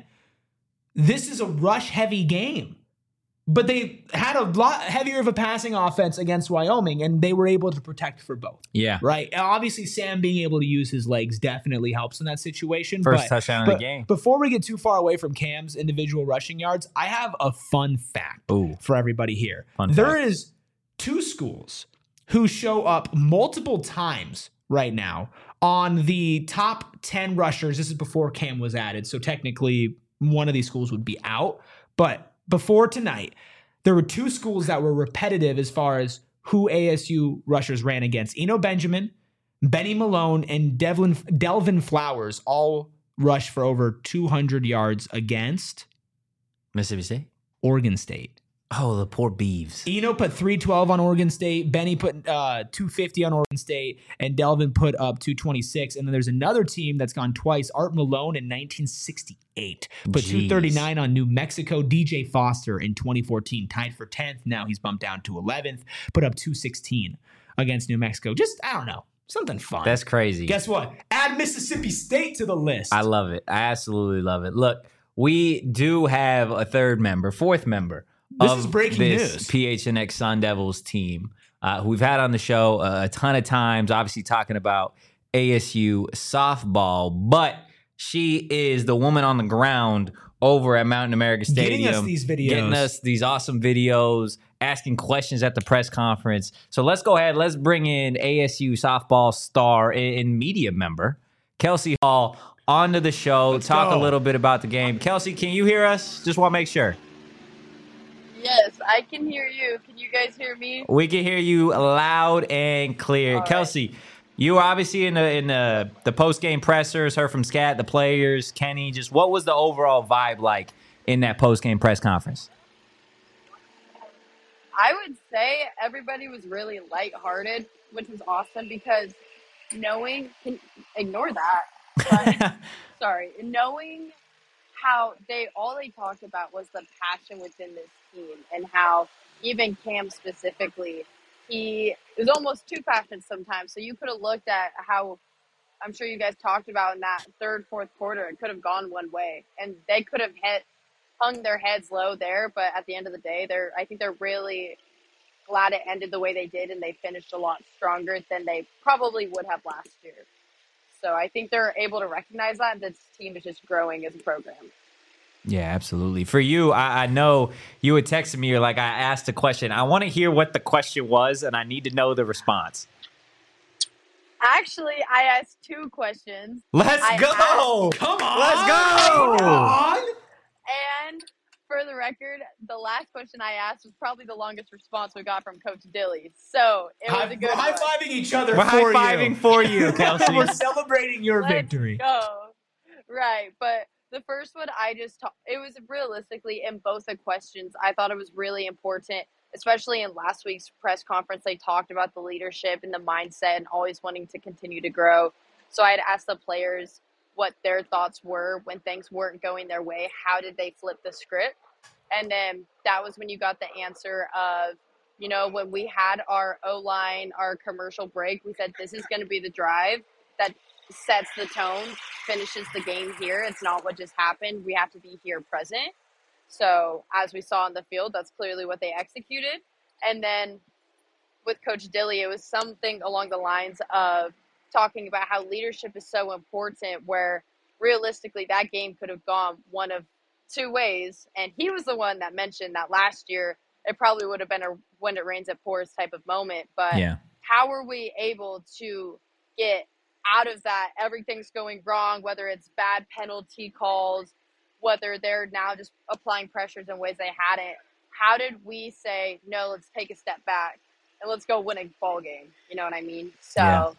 this is a rush-heavy game. But they had a lot heavier of a passing offense against Wyoming, and they were able to protect for both. Yeah. Right? And obviously, Sam being able to use his legs definitely helps in that situation. First touchdown of the game. Before we get too far away from Cam's individual rushing yards, I have a fun fact for everybody here. There is 2 schools who show up multiple times right now on the top 10 rushers. This is before Cam was added, so technically one of these schools would be out. But before tonight, there were 2 schools that were repetitive as far as who ASU rushers ran against. Eno Benjamin, Benny Malone, and Delvin Flowers all rushed for over 200 yards against Mississippi State? Oregon State. Oh, the poor Beavs. Eno put 312 on Oregon State. Benny put 250 on Oregon State. And Delvin put up 226. And then there's another team that's gone twice. Art Malone in 1968. Put 239 on New Mexico. DJ Foster in 2014 tied for 10th. Now he's bumped down to 11th. Put up 216 against New Mexico. Just, I don't know. Something fun. That's crazy. Guess what? Add Mississippi State to the list. I love it. I absolutely love it. Look, we do have a fourth member. This is breaking news. PHNX Sun Devils team, who we've had on the show a ton of times, obviously talking about ASU softball, but she is the woman on the ground over at Mountain America Stadium. Getting us these videos. Getting us these awesome videos, asking questions at the press conference. So let's go ahead. Let's bring in ASU softball star and media member, Kelsey Hall, onto the show. Let's talk a little bit about the game. Kelsey, can you hear us? Just want to make sure. Yes, I can hear you. Can you guys hear me? We can hear you loud and clear. All Kelsey, right. you were obviously in the post-game pressers, heard from Scat, the players, Kenny. Just what was the overall vibe like in that post-game press conference? I would say everybody was really lighthearted, which was awesome, because ignore that. But, sorry, knowing how all they talked about was the passion within this team, and how even Cam specifically, he was almost too passionate sometimes. So you could have looked at how, I'm sure you guys talked about in that third, fourth quarter, it could have gone one way, and they could have hung their heads low there. But at the end of the day, I think they're really glad it ended the way they did, and they finished a lot stronger than they probably would have last year. So I think they're able to recognize that this team is just growing as a program. Yeah, absolutely. For you, I know you had texted me. You're like, I asked a question. I want to hear what the question was, and I need to know the response. Actually, I asked 2 questions. Let's go! Come on! Let's go! Come on! And for the record, the last question I asked was probably the longest response we got from Coach Dilly. So it was a good one. We're high-fiving each other We're for you. high-fiving for you, Kelsey. We're celebrating your victory. Let's go. Right, but the first one, it was realistically in both the questions. I thought it was really important, especially in last week's press conference. They talked about the leadership and the mindset and always wanting to continue to grow. So I had asked the players what their thoughts were when things weren't going their way. How did they flip the script? And then that was when you got the answer of, when we had our O-line, our commercial break, we said, this is going to be the drive that sets the tone, finishes the game here. It's not what just happened. We have to be here present. So as we saw on the field, that's clearly what they executed. And then with Coach Dilly, it was something along the lines of talking about how leadership is so important, where realistically that game could have gone one of two ways. And he was the one that mentioned that last year it probably would have been a when it rains it pours type of moment. But how are we able to get out of that? Everything's going wrong, whether it's bad penalty calls, whether they're now just applying pressures in ways they hadn't. How did we say, no, let's take a step back and let's go win a ball game? You know what I mean? So,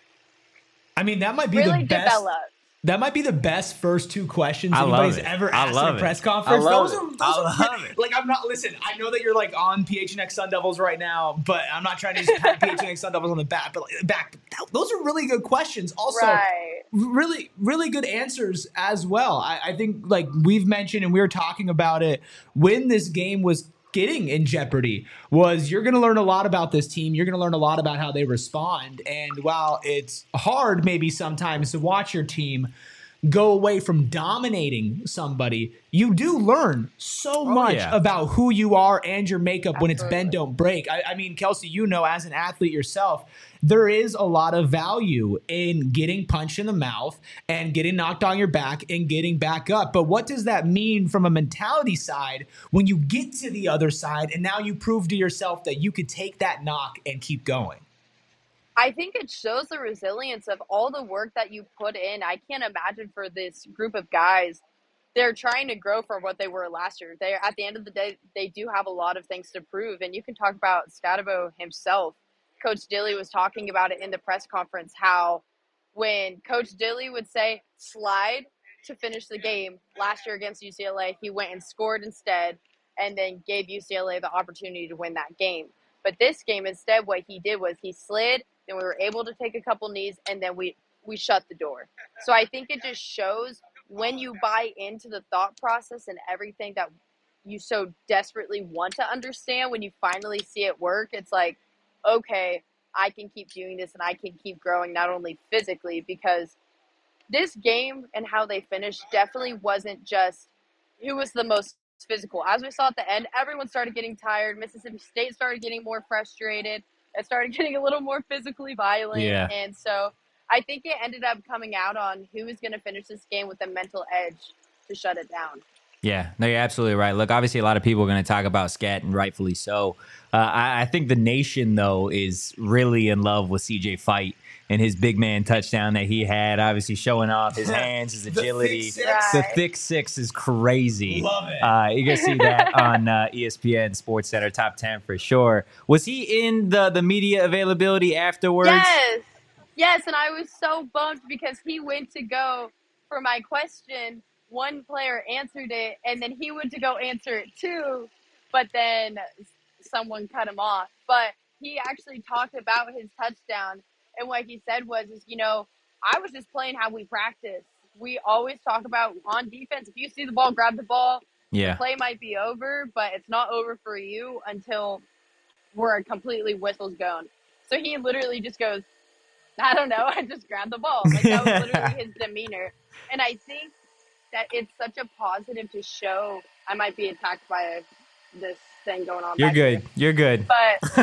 I mean, that might be really the best. Develop. That might be the best first two questions anybody's ever asked in a press conference. I love it. Like, I'm not, listen, I know that you're like on PHNX Sun Devils right now, but I'm not trying to just pat PHNX Sun Devils on the back. Those are really good questions. Also, really, really good answers as well. I think, like we've mentioned and we were talking about it when this game was getting in jeopardy, was you're going to learn a lot about this team. You're going to learn a lot about how they respond. And while it's hard maybe sometimes to watch your team go away from dominating somebody, you do learn so much about who you are and your makeup when it's bend, don't break. I mean, Kelsey, you know, as an athlete yourself, there is a lot of value in getting punched in the mouth and getting knocked on your back and getting back up. But what does that mean from a mentality side when you get to the other side and now you prove to yourself that you could take that knock and keep going? I think it shows the resilience of all the work that you put in. I can't imagine for this group of guys, they're trying to grow from what they were last year. They, at the end of the day, they do have a lot of things to prove. And you can talk about Scadabo himself. Coach Dilly was talking about it in the press conference, how when Coach Dilly would say slide to finish the game last year against UCLA, he went and scored instead and then gave UCLA the opportunity to win that game. But this game, instead, what he did was he slid, then we were able to take a couple knees, and then we shut the door. So I think it just shows when you buy into the thought process and everything that you so desperately want to understand, when you finally see it work, it's like, okay, I can keep doing this and I can keep growing, not only physically, because this game and how they finished definitely wasn't just who was the most physical. As we saw at the end, everyone started getting tired. Mississippi State started getting more frustrated. It started getting a little more physically violent. Yeah. And so I think it ended up coming out on who is going to finish this game with a mental edge to shut it down. Yeah, no, you're absolutely right. Look, obviously a lot of people are going to talk about Scat, and rightfully so. I think the nation, though, is really in love with CJ Fight and his big man touchdown that he had, obviously showing off his hands, his agility. The thick six is crazy. Love it. You can see that on ESPN Sports Center Top 10 for sure. Was he in the media availability afterwards? Yes, and I was so bummed because he went to go for my question. One player answered it, and then he went to go answer it too, but then someone cut him off. But he actually talked about his touchdown, and what he said was, you know, I was just playing how we practice. We always talk about on defense, if you see the ball, grab the ball. Yeah. The play might be over, but it's not over for you until we're completely whistles going. So he literally just goes, I don't know, I just grabbed the ball. Like, that was literally his demeanor. And I think that it's such a positive to show. I might be attacked by this thing going on. You're good. You're good. But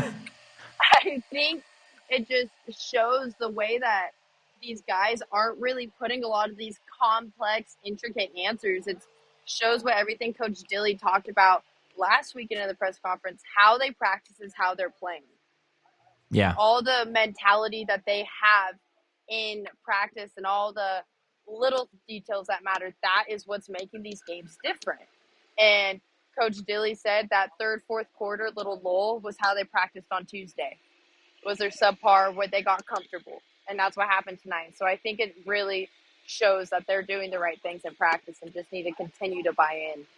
I think it just shows the way that these guys aren't really putting a lot of these complex, intricate answers. It shows what everything Coach Dilly talked about last weekend in the press conference, how they practice is how they're playing. Yeah. All the mentality that they have in practice and all the little details that matter, that is what's making these games different. And Coach Dilly said that third, fourth quarter little lull was how they practiced on Tuesday. Was their subpar where they got comfortable. And that's what happened tonight. So I think it really shows that they're doing the right things in practice and just need to continue to buy in.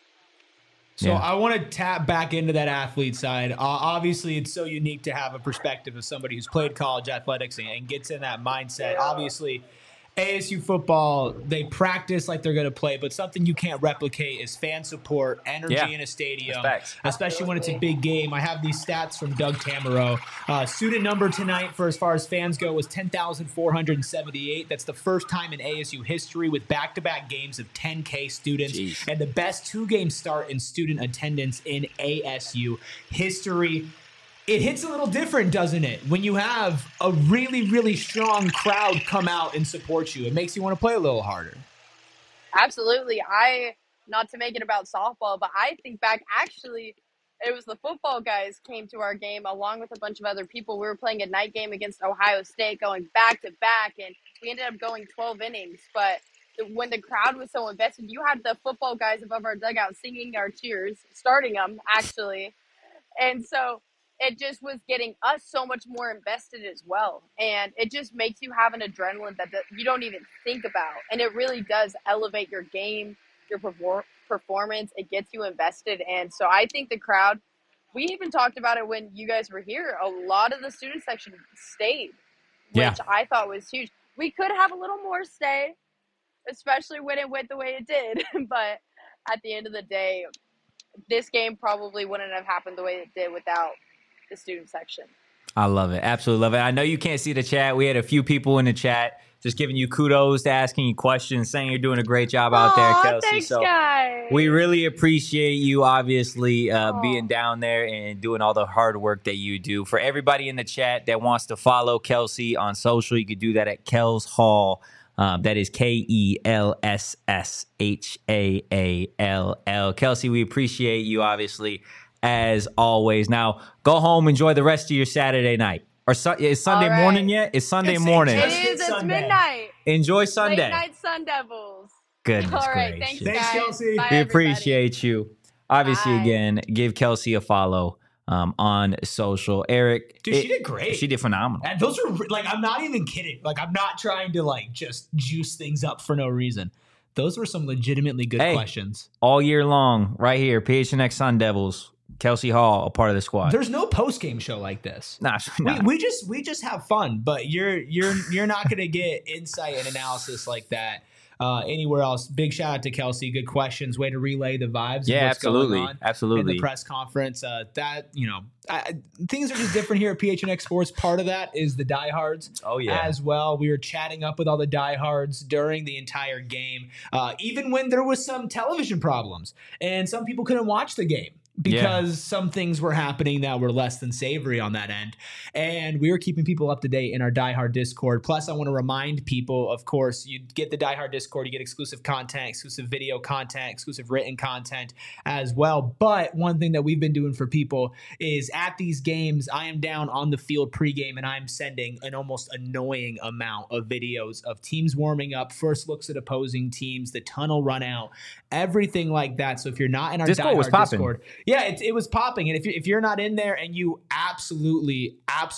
So I want to tap back into that athlete side. Obviously, it's so unique to have a perspective of somebody who's played college athletics and gets in that mindset. Yeah. Obviously, ASU football, they practice like they're going to play, but something you can't replicate is fan support, energy in a stadium, especially when it's a big game. I have these stats from Doug Tamaro. Student number tonight for as far as fans go was 10,478. That's the first time in ASU history with back-to-back games of 10K students and the best two-game start in student attendance in ASU history. It hits a little different, doesn't it? When you have a really, really strong crowd come out and support you, it makes you want to play a little harder. Absolutely. Not to make it about softball, but I think back, actually, it was the football guys came to our game along with a bunch of other people. We were playing a night game against Ohio State going back to back, and we ended up going 12 innings. But when the crowd was so invested, you had the football guys above our dugout singing our cheers, starting them, actually. And so it just was getting us so much more invested as well. And it just makes you have an adrenaline that you don't even think about. And it really does elevate your game, your performance. It gets you invested. And so I think the crowd, we even talked about it when you guys were here, a lot of the student section stayed, which I thought was huge. We could have a little more stay, especially when it went the way it did. But at the end of the day, this game probably wouldn't have happened the way it did without the student section. I love it. Absolutely love it. I know you can't see the chat. We had a few people in the chat just giving you kudos, asking you questions, saying you're doing a great job out there, Kelsey. Thanks, so guys. we really appreciate you, obviously, being down there and doing all the hard work that you do. For everybody in the chat that wants to follow Kelsey on social, you can do that at Kels Hall. That is KELSSHAALL. Kelsey, we appreciate you, obviously, as always. Now, go home, enjoy the rest of your Saturday night. Or is Sunday morning yet? It's Sunday morning. It is. It's midnight. Enjoy Sunday. Late night Sun Devils. Goodness All right. gracious. Thanks, guys. Kelsey. Bye, We everybody. appreciate you. Obviously, Bye. again, give Kelsey a follow on social. Eric. Dude, she did great. She did phenomenal. And those are, like, I'm not even kidding. Like, I'm not trying to, like, just juice things up for no reason. Those were some legitimately good questions. All year long, right here, PHNX Sun Devils. Kelsey Hall, a part of the squad. There's no post game show like this. Nah. We just have fun, but you're not gonna get insight and analysis like that anywhere else. Big shout out to Kelsey. Good questions. Way to relay the vibes. Yeah, of what's absolutely, going on absolutely. In the press conference, things are just different here at PHNX Sports. Part of that is the diehards. Oh yeah, as well. We were chatting up with all the diehards during the entire game, even when there was some television problems and some people couldn't watch the game because some things were happening that were less than savory on that end. And we were keeping people up to date in our diehard Discord. Plus, I want to remind people, of course, you get the diehard Discord, you get exclusive content, exclusive video content, exclusive written content as well. But one thing that we've been doing for people is at these games, I am down on the field pregame and I'm sending an almost annoying amount of videos of teams warming up, first looks at opposing teams, the tunnel run out, everything like that. So if you're not in our Discord was diehard popping. Discord, yeah, it was popping. And if you're not in there and you absolutely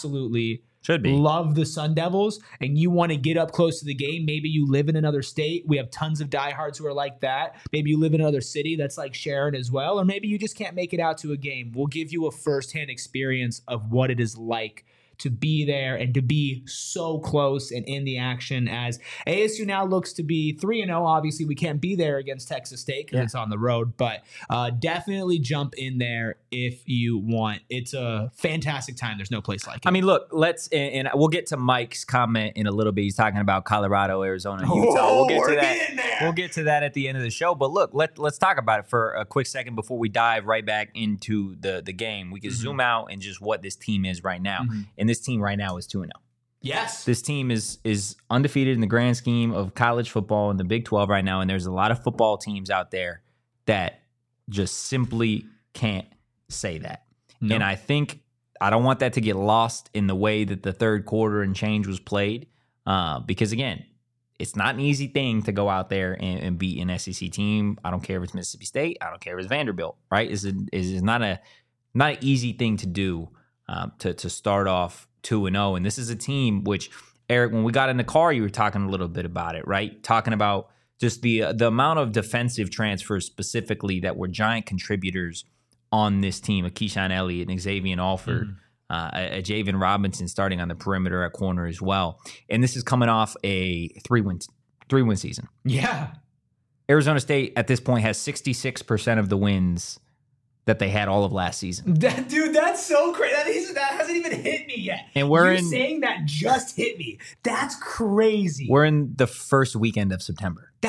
should be love the Sun Devils and you want to get up close to the game, maybe you live in another state. We have tons of diehards who are like that. Maybe you live in another city that's like Sharon as well. Or maybe you just can't make it out to a game. We'll give you a firsthand experience of what it is like to be there and to be so close and in the action, as ASU now looks to be 3-0. Obviously, we can't be there against Texas State because it's on the road, but definitely jump in there if you want. It's a fantastic time. There's no place like it. I mean, look, and we'll get to Mike's comment in a little bit. He's talking about Colorado, Arizona, Utah. We'll get to that. We'll get to that at the end of the show. But look, let's talk about it for a quick second before we dive right back into the game. We can zoom out and just what this team is right now. And this team right now is 2-0. Yes. This team is undefeated in the grand scheme of college football in the Big 12 right now. And there's a lot of football teams out there that just simply can't say that. No. And I think I don't want that to get lost in the way that the third quarter and change was played. Because, again, it's not an easy thing to go out there and beat an SEC team. I don't care if it's Mississippi State. I don't care if it's Vanderbilt, right? It's not an easy thing to do to start off 2-0. And this is a team which, Eric, when we got in the car, you were talking a little bit about it, right? Talking about just the amount of defensive transfers specifically that were giant contributors on this team. A Keyshawn Elliott and Xavier Alford, a Javen Robinson starting on the perimeter at corner as well. And this is coming off a three-win season. Yeah. Arizona State at this point has 66% of the wins that they had all of last season. Dude, that's so crazy. That hasn't even hit me yet. And saying that just hit me. That's crazy. We're in the first weekend of September.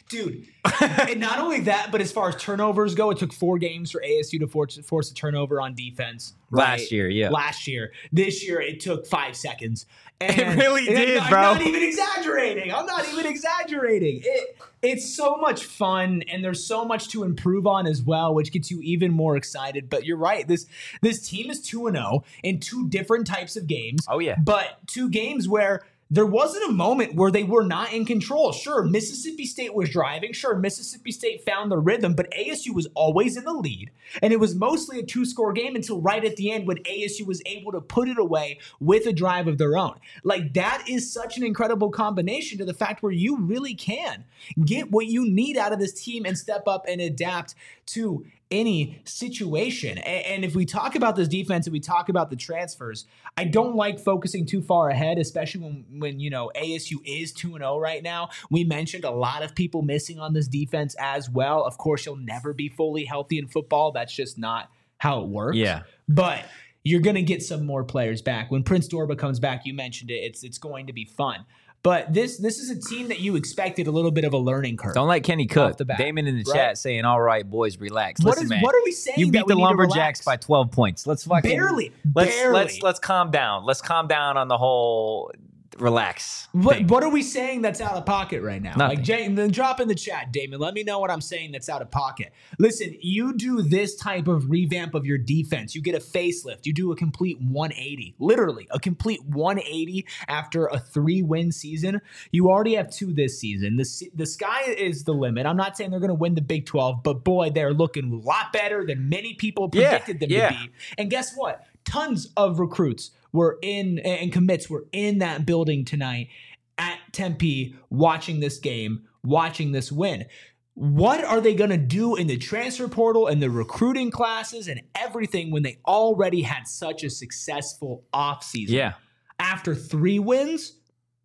Dude, and not only that, but as far as turnovers go, it took 4 games for ASU to force a turnover on defense. Last year, yeah. Last year. This year, it took 5 seconds. And it really did, bro. I'm not even exaggerating. It's so much fun, and there's so much to improve on as well, which gets you even more excited. But you're right. This team is 2-0 in 2 different types of games. Oh, yeah. But 2 games where there wasn't a moment where they were not in control. Sure, Mississippi State was driving. Sure, Mississippi State found the rhythm, but ASU was always in the lead. And it was mostly a 2-score game until right at the end when ASU was able to put it away with a drive of their own. Like, that is such an incredible combination to the fact where you really can get what you need out of this team and step up and adapt to any situation. And if we talk about this defense and we talk about the transfers, I don't like focusing too far ahead, especially when you know, ASU is 2-0 right now. We mentioned a lot of people missing on this defense as well. Of course, you'll never be fully healthy in football. That's just not how it works. Yeah. But you're going to get some more players back. When Prince Dorba comes back, you mentioned it, it's going to be fun. But this is a team that you expected a little bit of a learning curve. Don't let Kenny cook. Damon in the chat saying, "All right, boys, relax." Listen, man, what are we saying? You beat the Lumberjacks by 12 points. Let's fucking barely. Let's calm down. Let's calm down on the whole relax. What are we saying that's out of pocket right now? Nothing. Like, then drop in the chat, Damon. Let me know what I'm saying that's out of pocket. Listen, you do this type of revamp of your defense. You get a facelift. You do a complete 180. Literally, a complete 180 after a 3-win season. You already have 2 this season. The sky is the limit. I'm not saying they're going to win the Big 12, but boy, they're looking a lot better than many people predicted them to be. And guess what? Tons of recruits were in and commits were in that building tonight at Tempe watching this game, watching this win. What are they going to do in the transfer portal and the recruiting classes and everything when they already had such a successful offseason? Yeah. After 3 wins,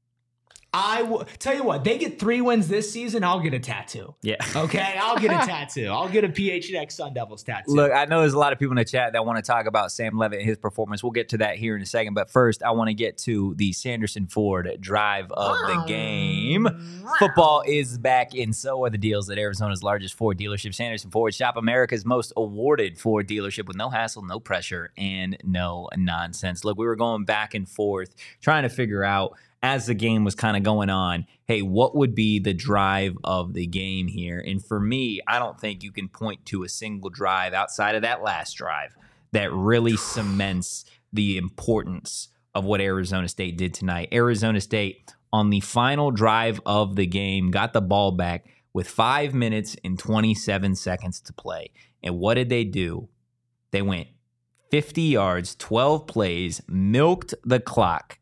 I will tell you what, they get 3 wins this season, I'll get a tattoo. Yeah. Okay, I'll get a tattoo. I'll get a PHNX Sun Devils tattoo. Look, I know there's a lot of people in the chat that want to talk about Sam Levitt and his performance. We'll get to that here in a second. But first, I want to get to the Sanderson Ford drive of the game. Football is back, and so are the deals at Arizona's largest Ford dealership, Sanderson Ford. Shop America's most awarded Ford dealership with no hassle, no pressure, and no nonsense. Look, we were going back and forth trying to figure out, as the game was kind of going on, hey, what would be the drive of the game here? And for me, I don't think you can point to a single drive outside of that last drive that really cements the importance of what Arizona State did tonight. Arizona State, on the final drive of the game, got the ball back with 5 minutes and 27 seconds to play. And what did they do? They went 50 yards, 12 plays, milked the clock,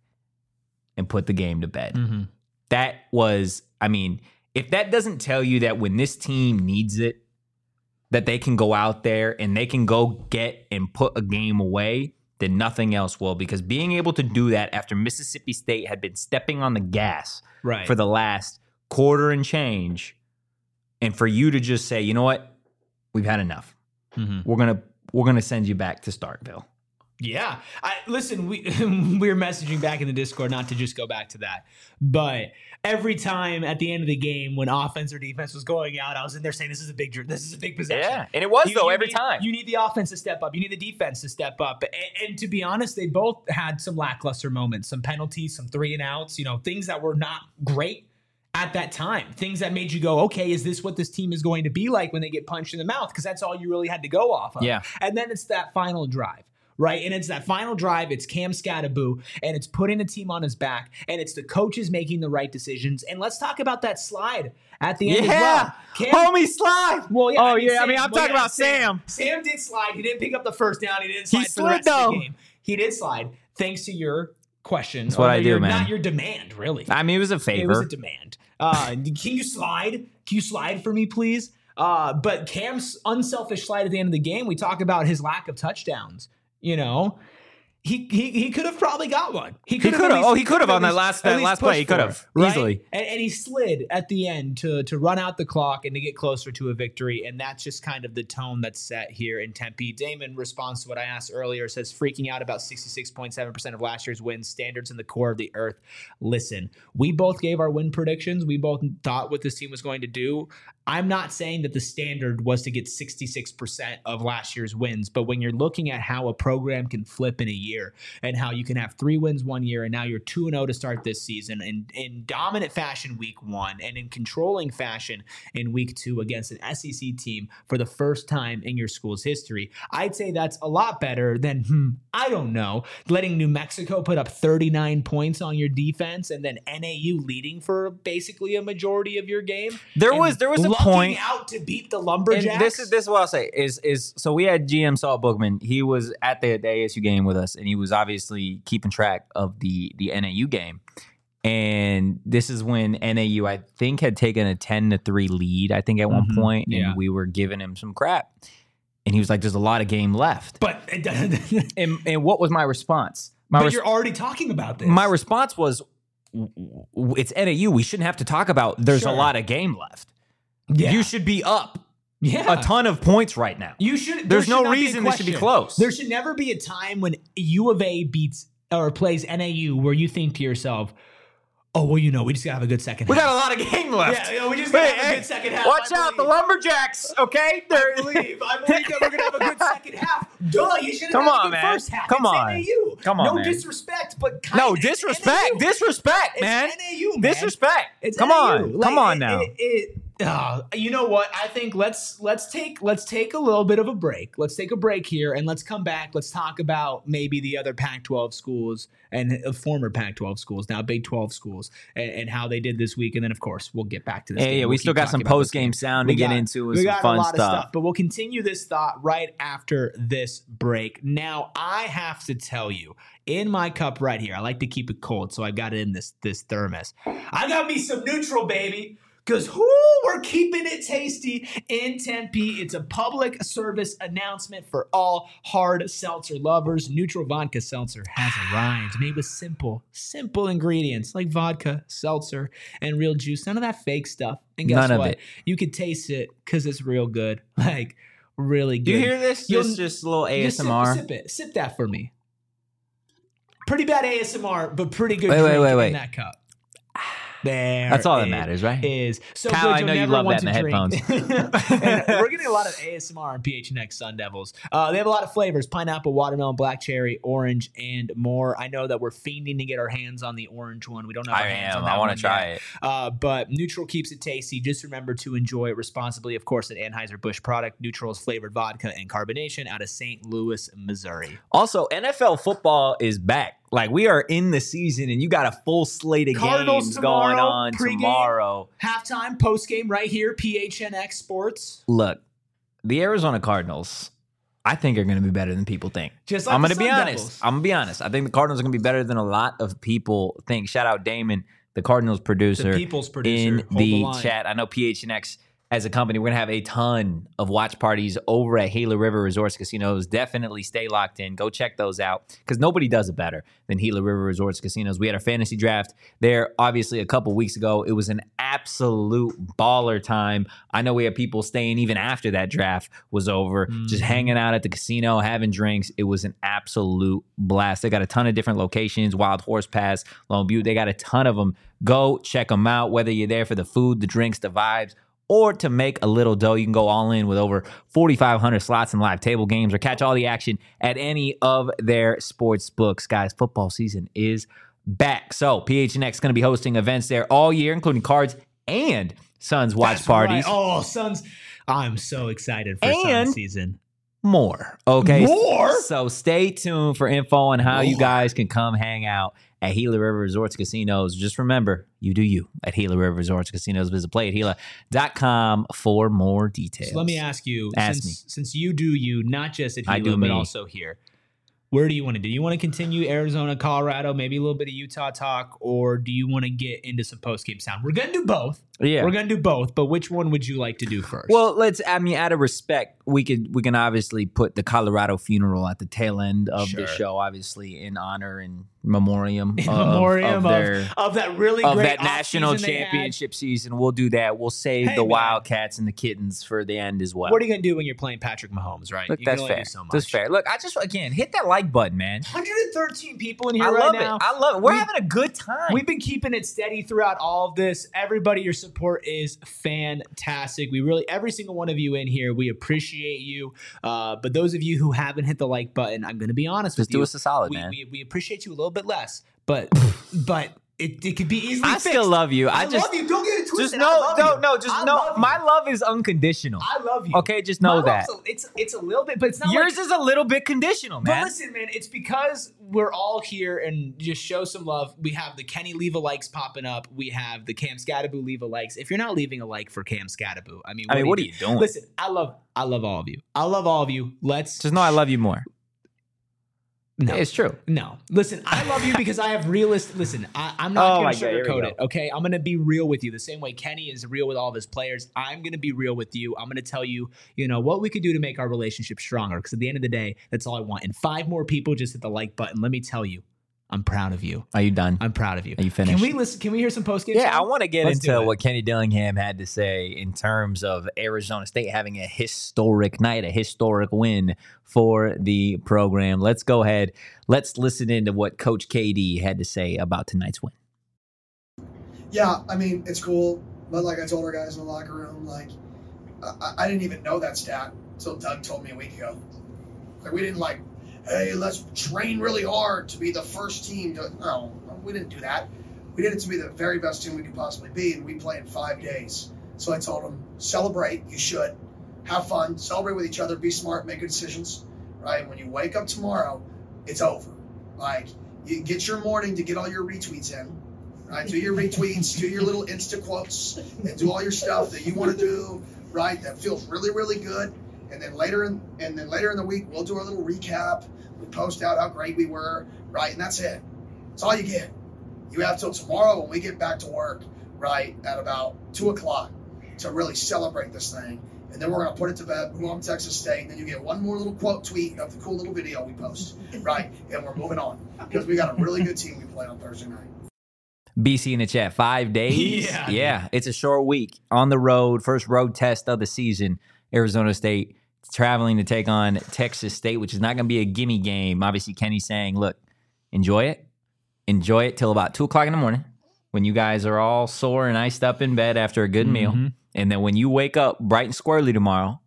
and put the game to bed. Mm-hmm. That was, I mean, if that doesn't tell you that when this team needs it, that they can go out there and they can go get and put a game away, then nothing else will. Because being able to do that after Mississippi State had been stepping on the gas for the last quarter and change, and for you to just say, you know what, we've had enough. Mm-hmm. We're gonna send you back to Starkville. Yeah. Listen, we were messaging back in the Discord, not to just go back to that, but every time at the end of the game when offense or defense was going out, I was in there saying this is a big possession. Yeah, and it was every time. You need the offense to step up. You need the defense to step up. And to be honest, they both had some lackluster moments, some penalties, some 3-and-outs, things that were not great at that time. Things that made you go, okay, is this what this team is going to be like when they get punched in the mouth? Because that's all you really had to go off of. Yeah. And then it's that final drive. Right. And it's that final drive. It's Cam Scattaboo, and it's putting the team on his back, and it's the coaches making the right decisions. And let's talk about that slide at the end as well. Homie slide. Well, yeah. I'm talking about Sam. Sam did slide. He didn't pick up the first down. He didn't slide for the rest of the game. He did slide thanks to your question. That's what I do, man. Not your demand, really. I mean, it was a favor. It was a demand. Can you slide? Can you slide for me, please? But Cam's unselfish slide at the end of the game, we talk about his lack of touchdowns. He could have probably got one. He could have. Oh, he could have on that last play. He could have easily. And he slid at the end to run out the clock and to get closer to a victory. And that's just kind of the tone that's set here in Tempe. Damon responds to what I asked earlier, says freaking out about 66.7% of last year's wins, standards in the core of the earth. Listen, we both gave our win predictions. We both thought what this team was going to do. I'm not saying that the standard was to get 66% of last year's wins, but when you're looking at how a program can flip in a year and how you can have 3 wins one year and now you're 2-0 to start this season in dominant fashion week 1 and in controlling fashion in week 2 against an SEC team for the first time in your school's history, I'd say that's a lot better than, I don't know, letting New Mexico put up 39 points on your defense and then NAU leading for basically a majority of your game. There was a point out to beat the Lumberjacks. And this is what I'll say is so we had GM Saul Bookman. He was at the ASU game with us, and he was obviously keeping track of the NAU game. And this is when NAU, I think, had taken a 10-3 lead, I think, at one point, and we were giving him some crap. And he was like, there's a lot of game left. But and what was my response? You're already talking about this. My response was, it's NAU. We shouldn't have to talk about there's a lot of game left. Yeah. You should be up a ton of points right now. You should. There's no reason this should be close. There should never be a time when U of A beats or plays NAU where you think to yourself, oh, well, we just got to have a good second half. We got a lot of game left. Yeah, we just got to have a good second half. Watch out, the Lumberjacks, okay? I believe that we're going to have a good second half. Duh, you should have had a good first half. Come on. NAU. Come on, no man. Disrespect, but kind of. No, disrespect. NAU. Disrespect, man. It's NAU, man. Disrespect. It's Come NAU. on. Come on now. You know what? I think let's take a little bit of a break. Let's take a break here and let's come back. Let's talk about maybe the other Pac-12 schools and former Pac-12 schools, now Big 12 schools, and how they did this week. And then, of course, we'll get back to this. Yeah, we still got some post-game sound to get into. We got some fun stuff. But we'll continue this thought right after this break. Now, I have to tell you, in my cup right here, I like to keep it cold, so I got it in this thermos. I got me some Neutral, baby. Because we're keeping it tasty in Tempe. It's a public service announcement for all hard seltzer lovers. Neutral Vodka Seltzer has arrived, made with simple ingredients like vodka, seltzer, and real juice. None of that fake stuff. And guess None of what? it. You could taste it because it's real good. Like, really good. Do you hear this? Just a little ASMR. Sip it. Sip that for me. Pretty bad ASMR, but pretty good wait. in that cup. There That's all that matters, right? Is so Kyle, good. I know you love that in the headphones. And we're getting a lot of ASMR on PHNX Sun Devils. They have a lot of flavors: pineapple, watermelon, black cherry, orange, and more. I know that we're fiending to get our hands on the orange one. We don't have our hands on that. I want to try it. But Neutral keeps it tasty. Just remember to enjoy it responsibly. Of course, an Anheuser-Busch product. Neutral is flavored vodka and carbonation out of St. Louis, Missouri. Also, NFL football is back. Like, we are in the season, and you got a full slate of games going on tomorrow. Halftime, postgame right here, PHNX Sports. Look, the Arizona Cardinals, I think, are going to be better than people think. Just like I'm going the to be Sun honest. Devils. I'm going to be honest. I think the Cardinals are going to be better than a lot of people think. Shout out Damon, the Cardinals producer. The People's producer. In the chat. I know PHNX as a company, we're going to have a ton of watch parties over at Gila River Resorts Casinos. Definitely stay locked in. Go check those out because nobody does it better than Gila River Resorts Casinos. We had our fantasy draft there, obviously, a couple weeks ago. It was an absolute baller time. I know we had people staying even after that draft was over, just hanging out at the casino, having drinks. It was an absolute blast. They got a ton of different locations, Wild Horse Pass, Lone Butte. They got a ton of them. Go check them out, whether you're there for the food, the drinks, the vibes, or to make a little dough. You can go all in with over 4,500 slots and live table games, or catch all the action at any of their sports books. Guys, football season is back. So PHNX is going to be hosting events there all year, including cards and Suns watch parties. Right. Oh, Suns. I'm so excited for Suns season. More. Okay. More? So stay tuned for info on how you guys can come hang out at Gila River Resorts Casinos. Just remember, you do you at Gila River Resorts Casinos. Visit playatgila.com for more details. So let me ask you, since you do you, not just at Gila, but also here, Where do you want to do? You want to continue Arizona, Colorado, maybe a little bit of Utah talk, or do you want to get into some post-game sound? We're going to do both. Yeah. We're going to do both, but which one would you like to do first? Well, out of respect, we can obviously put the Colorado funeral at the tail end of the show, obviously in honor and memoriam of that really great that national championship season. We'll do that. We'll save the Wildcats and the Kittens for the end as well. What are you going to do when you're playing Patrick Mahomes, right? Look, that's fair. That's fair. Look, I just, again, hit that like button, man. 113 people in here now. I love it. We're having a good time. We've been keeping it steady throughout all of this. Everybody, your support is fantastic. We really, every single one of you in here, we appreciate you. But those of you who haven't hit the like button, I'm going to be honest with you. Just do us a solid, man. We appreciate you a little bit less, but it could be easily fixed. I still love you. I love you. Don't get it twisted. Just know. My love is unconditional. I love you. Okay, just know that. It's a little bit, but it's not. Yours is a little bit conditional, man. But listen, man, it's because we're all here and just show some love. We have the Kenny leave a likes popping up. We have the Cam Scattaboo leave a likes. If you're not leaving a like for Cam Scattaboo, I mean, what are you doing? Listen, I love all of you. I love all of you. Let's just know I love you more. No, it's true. No, listen, I love you because I have realist. Listen, I'm not going to sugarcoat it. Okay, I'm going to be real with you the same way Kenny is real with all of his players. I'm going to be real with you. I'm going to tell you, what we could do to make our relationship stronger. Because at the end of the day, that's all I want. And 5 more people just hit the like button. Let me tell you, I'm proud of you. Are you done? I'm proud of you. Are you finished? Can we listen? Can we hear some post-game? Yeah, I want to get into what Kenny Dillingham had to say in terms of Arizona State having a historic night, a historic win for the program. Let's go ahead. Let's listen into what Coach KD had to say about tonight's win. Yeah, I mean, it's cool. But like I told our guys in the locker room, I didn't even know that stat until Doug told me a week ago. We didn't hey, let's train really hard to be the first team. No, we didn't do that. We did it to be the very best team we could possibly be, and we play in 5 days. So I told them, celebrate. You should. Have fun. Celebrate with each other. Be smart. Make good decisions. Right? When you wake up tomorrow, it's over. You get your morning to get all your retweets in. Right? Do your retweets. Do your little Insta quotes. And do all your stuff that you want to do. Right? That feels really, really good. And then later in the week, we'll do our little recap. We post out how great we were, right? And that's it. That's all you get. You have till tomorrow when we get back to work, right, at about 2 o'clock to really celebrate this thing. And then we're going to put it to bed, move on to Texas State, and then you get one more little quote tweet of the cool little video we post, right? And we're moving on because we got a really good team we play on Thursday night. BC in the chat, 5 days. Yeah, it's a short week on the road, first road test of the season. Arizona State traveling to take on Texas State, which is not going to be a gimme game. Obviously, Kenny's saying, look, enjoy it. Enjoy it till about 2 o'clock in the morning when you guys are all sore and iced up in bed after a good meal. And then when you wake up bright and squirrely tomorrow,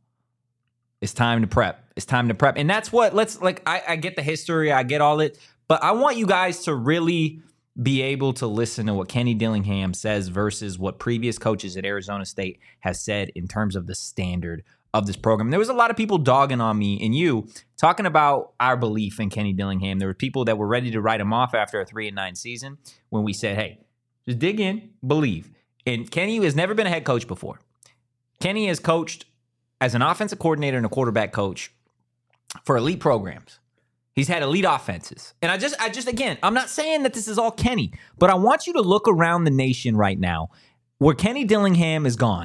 it's time to prep. It's time to prep. And that's what, I get the history. I get all it. But I want you guys to really be able to listen to what Kenny Dillingham says versus what previous coaches at Arizona State have said in terms of the standard of this program. There was a lot of people dogging on me and you talking about our belief in Kenny Dillingham. There were people that were ready to write him off after a 3-9 season when we said, hey, just dig in, believe. And Kenny has never been a head coach before. Kenny has coached as an offensive coordinator and a quarterback coach for elite programs. He's had elite offenses. And I just again, I'm not saying that this is all Kenny, but I want you to look around the nation right now where Kenny Dillingham is gone.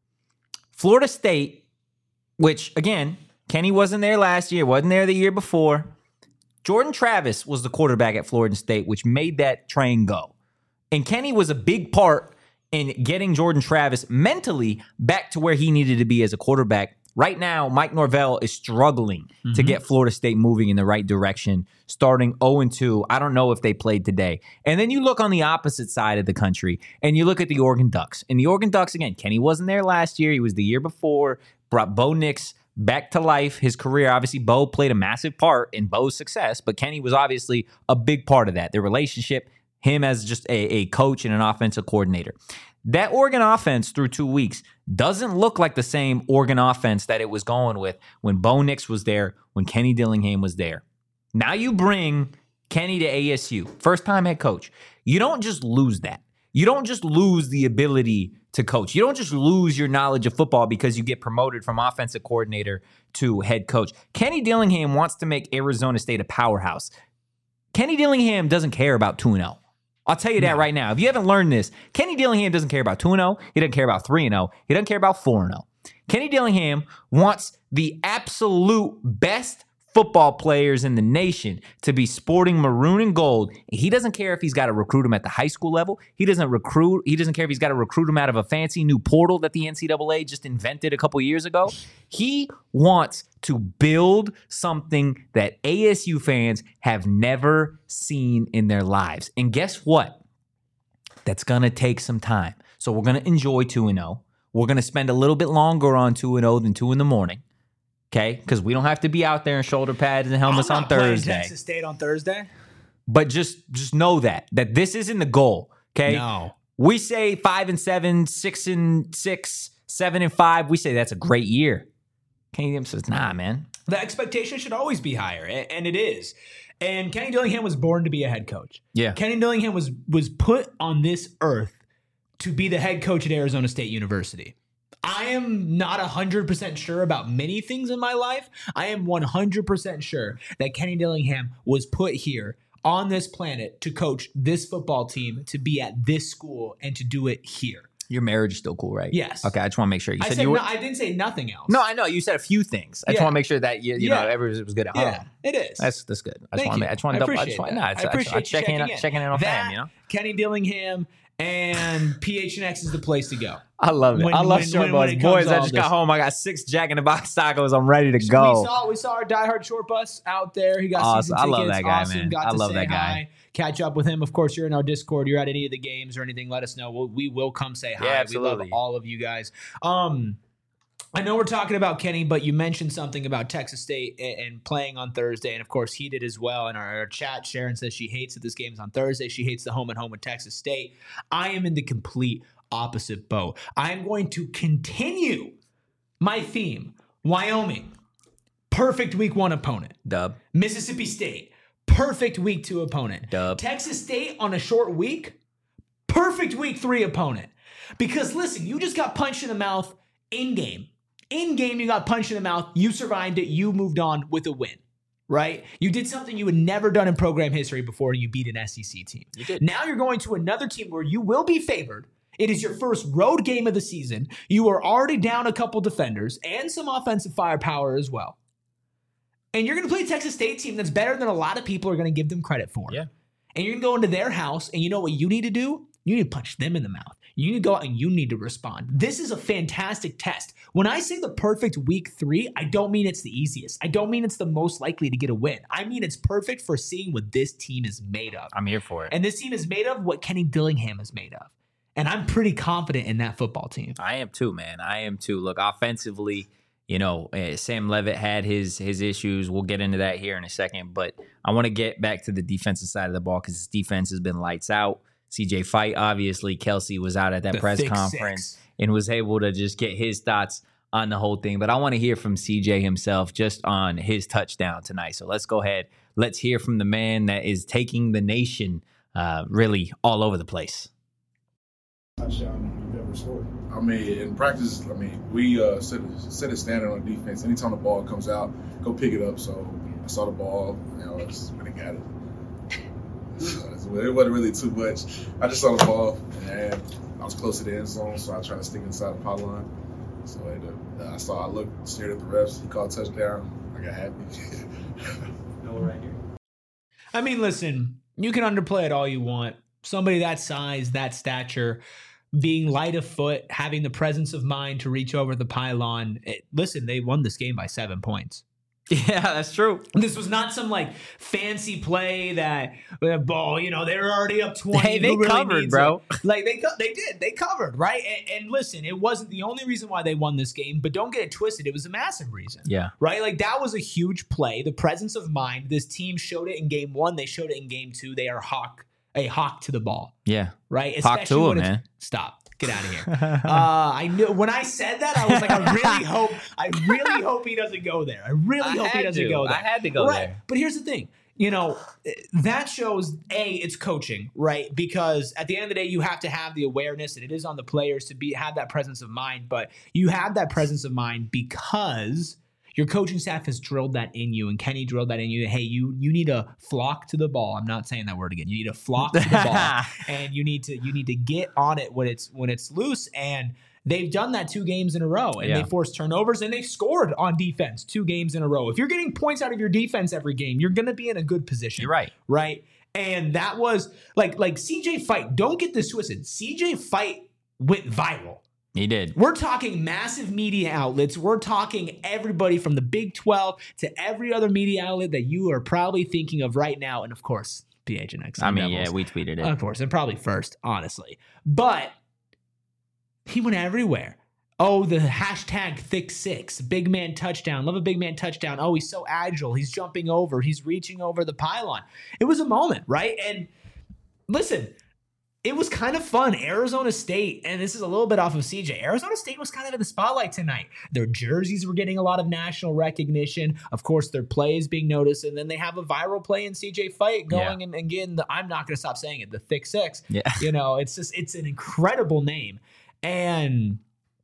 Florida State, which, again, Kenny wasn't there last year, wasn't there the year before. Jordan Travis was the quarterback at Florida State, which made that train go. And Kenny was a big part in getting Jordan Travis mentally back to where he needed to be as a quarterback. Right now, Mike Norvell is struggling to get Florida State moving in the right direction, starting 0-2. I don't know if they played today. And then you look on the opposite side of the country, and you look at the Oregon Ducks. And the Oregon Ducks, again, Kenny wasn't there last year. He was the year before. Brought Bo Nix back to life. His career, obviously, Bo played a massive part in Bo's success, but Kenny was obviously a big part of that. Their relationship, him as just a coach and an offensive coordinator. That Oregon offense through 2 weeks doesn't look like the same Oregon offense that it was going with when Bo Nix was there, when Kenny Dillingham was there. Now you bring Kenny to ASU, first-time head coach. You don't just lose that. You don't just lose the ability to coach. You don't just lose your knowledge of football because you get promoted from offensive coordinator to head coach. Kenny Dillingham wants to make Arizona State a powerhouse. Kenny Dillingham doesn't care about 2-0. I'll tell you that right now. If you haven't learned this, Kenny Dillingham doesn't care about 2-0. He doesn't care about 3-0. He doesn't care about 4-0. Kenny Dillingham wants the absolute best football players in the nation to be sporting maroon and gold. He doesn't care if he's got to recruit them at the high school level. He doesn't care if he's got to recruit them out of a fancy new portal that the NCAA just invented a couple years ago. He wants to build something that ASU fans have never seen in their lives. And guess what? That's going to take some time. So we're going to enjoy 2-0. We're going to spend a little bit longer on 2-0 than 2 in the morning. Okay, because we don't have to be out there in shoulder pads and helmets on Thursday. Texas State on Thursday. But just know that this isn't the goal. Okay, No. We say 5-7, 6-6, 7-5. We say that's a great year. Kenny Dillingham says, nah, man. The expectation should always be higher, and it is. And Kenny Dillingham was born to be a head coach. Yeah. Kenny Dillingham was put on this earth to be the head coach at Arizona State University. I am not 100% sure about many things in my life. I am 100% sure that Kenny Dillingham was put here on this planet to coach this football team, to be at this school, and to do it here. Your marriage is still cool, right? Yes. Okay, I just want to make sure. You said I didn't say nothing else. No, I know. You said a few things. I just want to make sure that you know everything was good at home. Yeah, it is. That's good. I Thank you. just want to checking in on fam, you know? Kenny Dillingham and PHNX is the place to go. I love it. I love short bus. Boys, I just got home. I got 6 Jack in the Box tacos. I'm ready to go. We saw our diehard short bus out there. He got awesome. season tickets. I love that guy, man. Got I to love say that guy. hi, catch up with him. Of course, you're in our Discord. You're at any of the games or anything, let us know. We will come say hi. Yeah, absolutely. We love all of you guys. I know we're talking about Kenny, but you mentioned something about Texas State and playing on Thursday, and of course he did as well. In our chat, Sharon says she hates that this game's on Thursday. She hates the home and home with Texas State. I am in the complete opposite boat. I am going to continue my theme. Wyoming, perfect week 1 opponent. Dub. Mississippi State, perfect week 2 opponent. Dub. Texas State on a short week, perfect week 3 opponent. Because listen, you just got punched in the mouth in game. In game, you got punched in the mouth. You survived it. You moved on with a win, right? You did something you had never done in program history before, and you beat an SEC team. You did. Now you're going to another team where you will be favored. It is your first road game of the season. You are already down a couple defenders and some offensive firepower as well. And you're going to play a Texas State team that's better than a lot of people are going to give them credit for. Yeah. And you're going to go into their house, and you know what you need to do? You need to punch them in the mouth. You need to go out and you need to respond. This is a fantastic test. When I say the perfect week 3, I don't mean it's the easiest. I don't mean it's the most likely to get a win. I mean it's perfect for seeing what this team is made of. I'm here for it. And this team is made of what Kenny Dillingham is made of. And I'm pretty confident in that football team. I am too, man. I am too. Look, offensively, you know, Sam Leavitt had his issues. We'll get into that here in a second. But I want to get back to the defensive side of the ball because his defense has been lights out. CJ Fight, obviously, Kelsey was out at that press conference and was able to just get his thoughts on the whole thing. But I want to hear from CJ himself just on his touchdown tonight. So let's go ahead. Let's hear from the man that is taking the nation really all over the place. Touchdown you've ever scored? I mean, in practice, we set a standard on defense. Anytime the ball comes out, go pick it up. So I saw the ball, I just went and got it. It wasn't really too much. I just saw the ball, and I was close to the end zone, so I tried to stick inside the pylon. So I looked, stared at the refs. He called touchdown. I got happy. No, right here. I mean, listen, you can underplay it all you want. Somebody that size, that stature, being light of foot, having the presence of mind to reach over the pylon. Listen, they won this game by 7 points. Yeah, that's true. This was not some fancy play that ball. You know, they were already up 20. Hey, they covered, bro. They covered, right? And listen, it wasn't the only reason why they won this game, but don't get it twisted. It was a massive reason. Yeah, right. That was a huge play. The presence of mind. This team showed it in game 1. They showed it in game 2. They are a hawk to the ball. Yeah, right. Hawk to him, man. Stop. Get out of here. I knew when I said that, I was like, I really hope he doesn't go there. I really hope he doesn't go there. I had to go there. But here's the thing. that shows it's coaching, right? Because at the end of the day, you have to have the awareness, and it is on the players to have that presence of mind. But you have that presence of mind because your coaching staff has drilled that in you, and Kenny drilled that in you. Hey, you need to flock to the ball. I'm not saying that word again. You need to flock to the ball, and you need to get on it when it's loose. And they've done that 2 games in a row, and they forced turnovers, and they've scored on defense 2 games in a row. If you're getting points out of your defense every game, you're going to be in a good position. You're right. Right? And that was like CJ Fight. Don't get this twisted. CJ Fight went viral. He did. We're talking massive media outlets. We're talking everybody from the Big 12 to every other media outlet that you are probably thinking of right now. And of course, PHNX. I mean, we tweeted it. Of course, and probably first, honestly. But he went everywhere. Oh, the hashtag thick6, big man touchdown. Love a big man touchdown. Oh, he's so agile. He's jumping over. He's reaching over the pylon. It was a moment, right? And listen, it was kind of fun. Arizona State, and this is a little bit off of CJ. Arizona State was kind of in the spotlight tonight. Their jerseys were getting a lot of national recognition. Of course, their play is being noticed, and then they have a viral play in CJ Fight going and getting I'm not going to stop saying it, the Thick Six. Yeah. It's an incredible name. And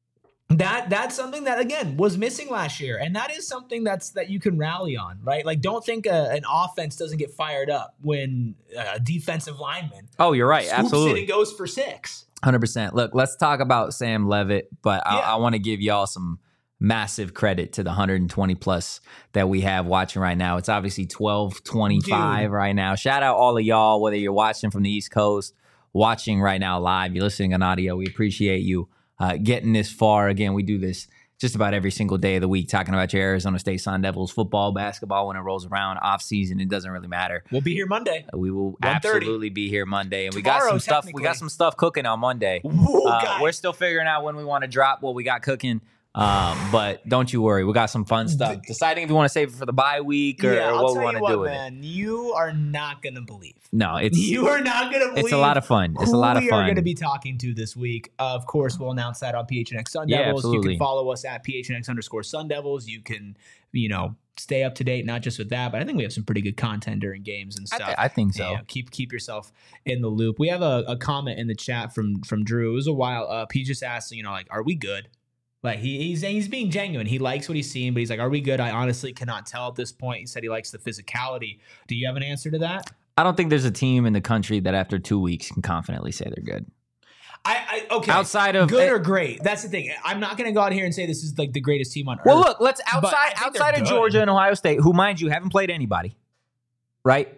that's something that, again, was missing last year. And that is something that you can rally on, right? Like, don't think an offense doesn't get fired up when a defensive lineman you're right. swoops Absolutely. in and goes for 6. 100%. Look, let's talk about Sam Levitt, but I want to give y'all some massive credit to the 120 plus that we have watching right now. It's obviously 12:25 right now. Shout out all of y'all, whether you're watching from the East Coast, watching right now live, you're listening on audio. We appreciate you getting this far. Again, we do this just about every single day of the week, talking about your Arizona State Sun Devils football, basketball when it rolls around, off season. It doesn't really matter. We'll be here Monday. We will 1:30. absolutely be here Monday, and Tomorrow, we got some stuff. We got some stuff cooking on Monday. We're still figuring out when we want to drop what we got cooking. But don't you worry, we got some fun stuff. Deciding if you want to save it for the bye week or what we want to do with it. You are not gonna believe. No, you are not gonna believe. It's a lot of fun. It's a lot of fun. We are gonna be talking to this week. Of course, we'll announce that on PHNX Sun Devils. Absolutely. You can follow us at PHNX_Sun Devils. You can, stay up to date, not just with that, but I think we have some pretty good content during games and stuff. I think so. Keep yourself in the loop. We have a comment in the chat from Drew. It was a while up. He just asked, are we good? Like he's being genuine. He likes what he's seeing, but he's like, are we good? I honestly cannot tell at this point. He said he likes the physicality. Do you have an answer to that? I don't think there's a team in the country that after 2 weeks can confidently say they're good. Okay. Outside of good or great. That's the thing. I'm not going to go out here and say this is like the greatest team on earth. Well, look, let's outside of Georgia and Ohio State, who, mind you, haven't played anybody, right?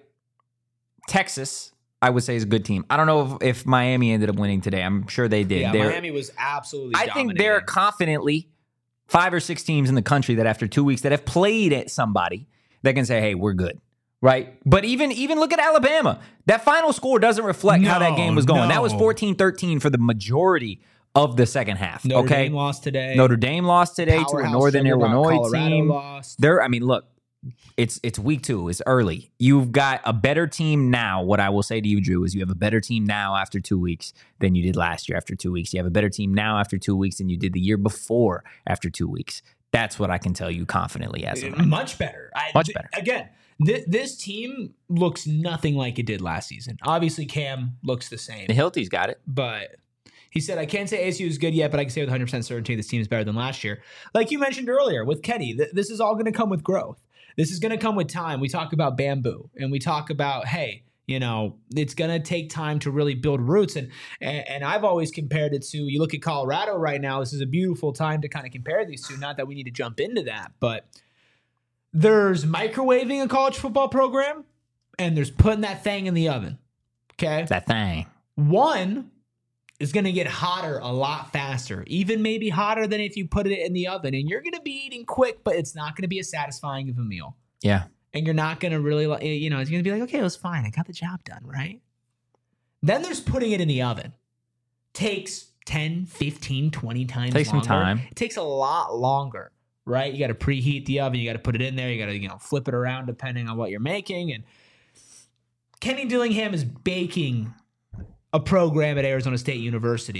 Texas, I would say, is a good team. I don't know if Miami ended up winning today. I'm sure they did. Yeah, Miami was absolutely dominating. I think there are confidently 5 or 6 teams in the country that after 2 weeks that have played at somebody that can say, hey, we're good. Right. But even look at Alabama. That final score doesn't reflect how that game was going. That was 14-13 for the majority of the second half. Notre Dame lost today. Notre Dame lost today to a Northern Illinois Colorado team. Lost. Look, it's week 2. It's early. You've got a better team now. What I will say to you, Drew, is you have a better team now after 2 weeks than you did last year after 2 weeks. You have a better team now after 2 weeks than you did the year before after 2 weeks. That's what I can tell you confidently as of right now. Much better. Much better. Again, this team looks nothing like it did last season. Obviously, Cam looks the same. The Hilty's got it. But he said, I can't say ASU is good yet, but I can say with 100% certainty this team is better than last year. Like you mentioned earlier with Kenny, this is all going to come with growth. This is going to come with time. We talk about bamboo, and we talk about, hey, it's going to take time to really build roots. And I've always compared it to, you look at Colorado right now, this is a beautiful time to kind of compare these two. Not that we need to jump into that, but there's microwaving a college football program, and there's putting that thing in the oven. Okay? That thing. One is going to get hotter a lot faster, even maybe hotter than if you put it in the oven. And you're going to be eating quick, but it's not going to be as satisfying of a meal. Yeah. And you're not going to really, it's going to be like, okay, it was fine. I got the job done, right? Then there's putting it in the oven. Takes 10, 15, 20 times Takes longer. some time. It takes a lot longer, right? You got to preheat the oven. You got to put it in there. You got to, flip it around depending on what you're making. And Kenny Dillingham is baking a program at Arizona State University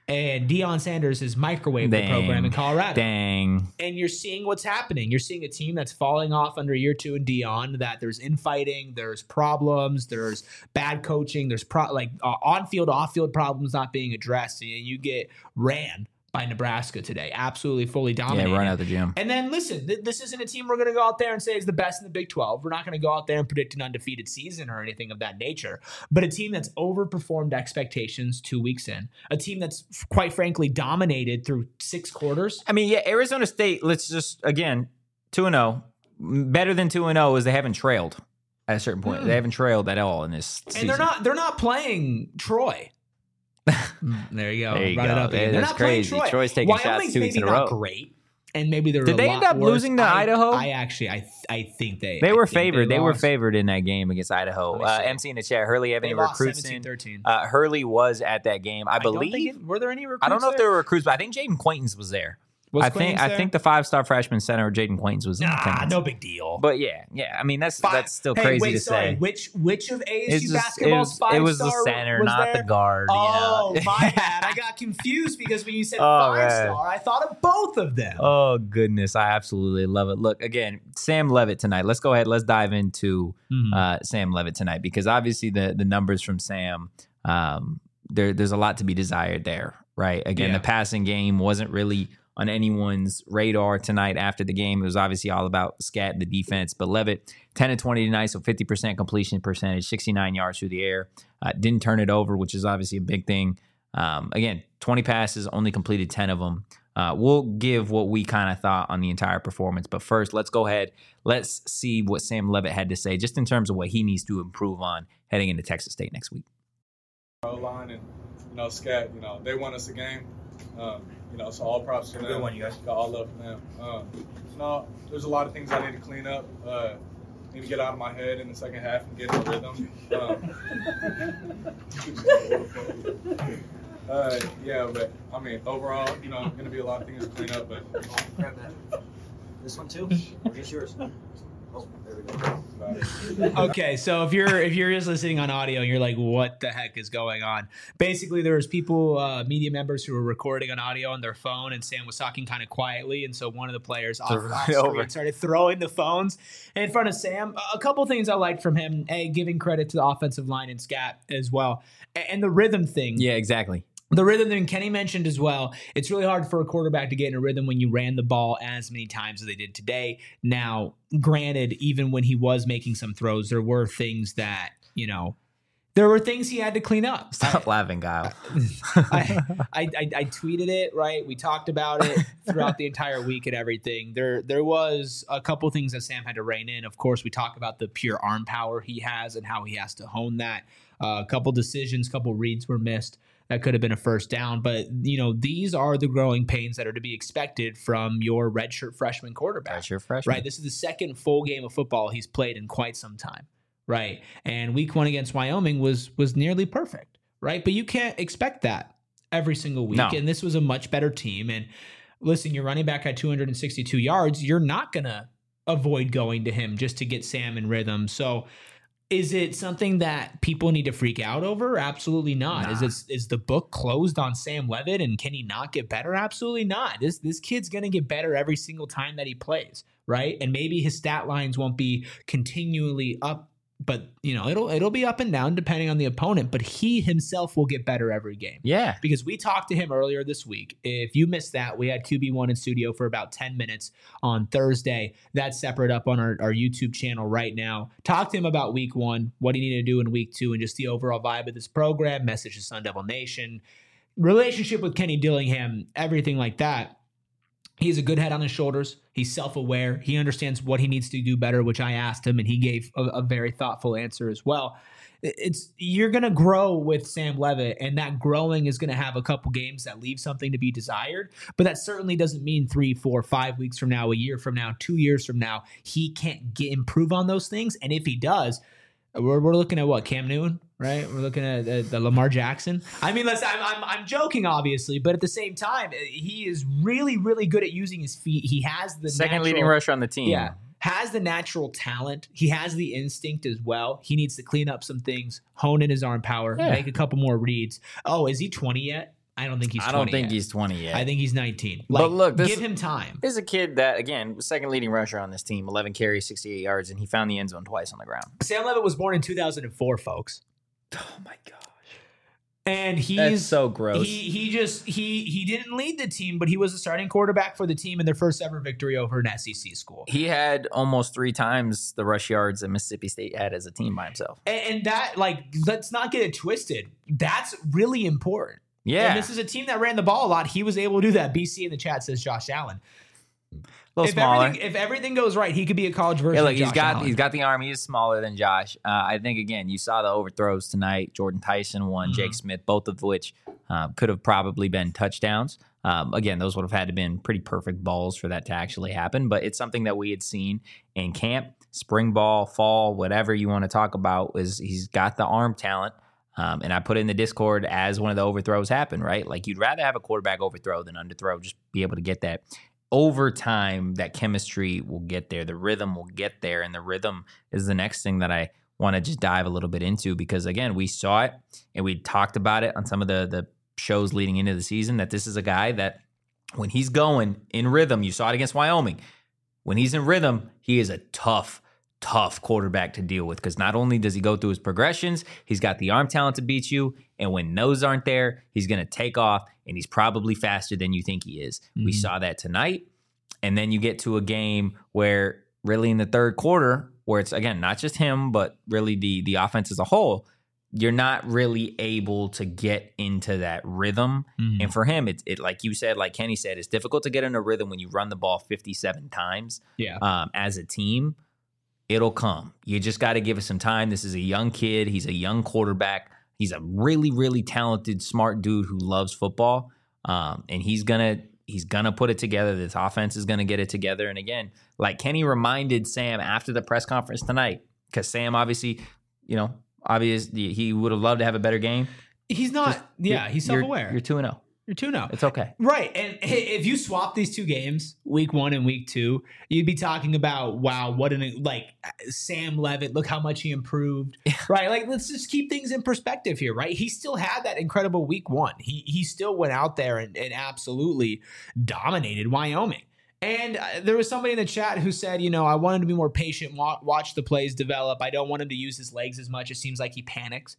And Deion Sanders has microwaved the program in Colorado. Dang. And you're seeing what's happening. You're seeing a team that's falling off under year 2 in Deion, that there's infighting, there's problems, there's bad coaching, there's on-field, off-field problems not being addressed. And you get ran by Nebraska today. Absolutely fully dominated. Yeah, run out the gym. And then listen, this isn't a team we're going to go out there and say is the best in the Big 12. We're not going to go out there and predict an undefeated season or anything of that nature. But a team that's overperformed expectations 2 weeks in. A team that's quite frankly dominated through 6 quarters. I mean, yeah, Arizona State, let's just, again, 2-0. Better than 2-0 is they haven't trailed at a certain point. They haven't trailed at all in this season. And they're not playing Troy. There you go. There you Run go. it up again. They're That's not playing crazy. Troy. Troy's taking Wyoming's shots 2 weeks in a maybe row. not great, and maybe they're. Did they end up losing to Idaho? I think they. They I were think favored. They were lost. favored in that game against Idaho. Let me see. MC in the chat. Hurley have They any lost recruits in? 17-13. Hurley was at that game, I don't believe. think were there any recruits? I don't know if there? there were recruits, but I think Jaden Quaintance was there. Was I Quaintance think the 5-star freshman center Jaden Quaintance was in attendance. no big deal. But yeah. I mean that's still Hey, crazy wait, to sorry. say. Which of It's ASU just- basketball's 5-star it was the center, was not there? the guard. Oh, you know? my bad. I got confused because when you said Oh, man. 5-star, I thought of both of them. Oh goodness, I absolutely love it. Look, again, Sam Levitt tonight. Let's go ahead. Let's dive into Sam Levitt tonight because obviously the numbers from Sam, there's a lot to be desired there, right? Again, the passing game wasn't really on anyone's radar tonight after the game. It was obviously all about Scat and the defense. But Levitt, 10-20 tonight, so 50% completion percentage, 69 yards through the air. Didn't turn it over, which is obviously a big thing. Again, 20 passes, only completed 10 of them. We'll give what we kind of thought on the entire performance. But first, let's go ahead. Let's see what Sam Levitt had to say just in terms of what he needs to improve on heading into Texas State next week. O-line and, Scat, they won us a game. So all props to them. Good one, you guys. Got all love for them. There's a lot of things I need to clean up. Need to get out of my head in the second half and get in the rhythm. But I mean, overall, going to be a lot of things to clean up. But Grab that. This one too? Or just yours? Oh, there we go. Okay, so if you're just listening on audio and you're like, what the heck is going on? Basically, there was people, media members who were recording on audio on their phone, and Sam was talking kind of quietly, and so one of the players off screen started throwing the phones in front of Sam. A couple things I liked from him: giving credit to the offensive line and Scat as well, and the rhythm thing. Yeah, exactly. The rhythm that Kenny mentioned as well, it's really hard for a quarterback to get in a rhythm when you ran the ball as many times as they did today. Now, granted, even when he was making some throws, there were things that, there were things he had to clean up. Stop laughing, Kyle. I tweeted it, right? We talked about it throughout the entire week and everything. There was a couple things that Sam had to rein in. Of course, we talk about the pure arm power he has and how he has to hone that. A couple decisions, couple reads were missed. That could have been a first down. But, these are the growing pains that are to be expected from your redshirt freshman quarterback. Redshirt freshman. Right? This is the second full game of football he's played in quite some time. Right? And week 1 against Wyoming was nearly perfect. Right? But you can't expect that every single week. No. And this was a much better team. And listen, your running back had 262 yards. You're not going to avoid going to him just to get Sam in rhythm. So is it something that people need to freak out over? Absolutely not. Nah. Is the book closed on Sam Levitt and can he not get better? Absolutely not. This kid's going to get better every single time that he plays, right? And maybe his stat lines won't be continually up, but it'll be up and down depending on the opponent, but he himself will get better every game. Yeah. Because we talked to him earlier this week. If you missed that, we had QB1 in studio for about 10 minutes on Thursday. That's separate up on our YouTube channel right now. Talk to him about week 1, what he needed to do in week 2, and just the overall vibe of this program, message to Sun Devil Nation, relationship with Kenny Dillingham, everything like that. He has a good head on his shoulders. He's self-aware. He understands what he needs to do better, which I asked him, and he gave a very thoughtful answer as well. You're going to grow with Sam Levitt, and that growing is going to have a couple games that leave something to be desired, but that certainly doesn't mean 3, 4, 5 weeks from now, a year from now, 2 years from now, he can't improve on those things. And if he does, we're looking at what, Cam Newton, right? We're looking at the Lamar Jackson. I mean, listen, I'm joking, obviously, but at the same time, he is really, really good at using his feet. He has the second leading rusher on the team. Yeah, has the natural talent. He has the instinct as well. He needs to clean up some things, hone in his arm power, make a couple more reads. Oh, is he 20 yet? I don't think he's 20 I don't think yet. he's 20 yet. I think he's 19. But look, give him time. This is a kid that, again, was second leading rusher on this team, 11 carries, 68 yards, and he found the end zone twice on the ground. Sam Levitt was born in 2004, folks. Oh, my gosh. And That's so gross. He didn't lead the team, but he was the starting quarterback for the team in their first ever victory over an SEC school. He had almost 3 times the rush yards that Mississippi State had as a team by himself. And that, let's not get it twisted. That's really important. Yeah. And this is a team that ran the ball a lot. He was able to do that. BC in the chat says Josh Allen. A little smaller. If everything goes right, he could be a college version Yeah, look, of Josh Allen. he's got the arm. He is smaller than Josh. I think, again, you saw the overthrows tonight. Jordan Tyson won, Jake Smith, both of which could have probably been touchdowns. Again, those would have had to been pretty perfect balls for that to actually happen. But it's something that we had seen in camp, spring ball, fall, whatever you want to talk about. Is he's got the arm talent. And I put it in the Discord as one of the overthrows happened, right? Like, you'd rather have a quarterback overthrow than underthrow, just be able to get that. Over time, that chemistry will get there. The rhythm will get there. And the rhythm is the next thing that I want to just dive a little bit into because, again, we saw it and we talked about it on some of the shows leading into the season that this is a guy that when he's going in rhythm, you saw it against Wyoming. When he's in rhythm, he is a tough quarterback to deal with because not only does he go through his progressions, he's got the arm talent to beat you. And when those aren't there, he's going to take off and he's probably faster than you think he is. We saw that tonight. And then you get to a game where really in the third quarter, where it's, again, not just him, but really the offense as a whole, you're not really able to get into that rhythm. And for him, it like you said, like Kenny said, it's difficult to get in a rhythm when you run the ball 57 times as a team. It'll come. You just got to give it some time. This is a young kid. He's a young quarterback. He's a really, really talented, smart dude who loves football. And he's gonna put it together. This offense is gonna get it together. And again, like Kenny reminded Sam after the press conference tonight, because Sam obviously, he would have loved to have a better game. He's not. He's self-aware. You're 2-0. You're 2-0. It's okay. Right. And if you swap these two games, week 1 and week 2, you'd be talking about, wow, Sam Levitt, look how much he improved. Right. Like, let's just keep things in perspective here, right? He still had that incredible week 1. He still went out there and absolutely dominated Wyoming. And there was somebody in the chat who said, I want him to be more patient, watch the plays develop. I don't want him to use his legs as much. It seems like he panics.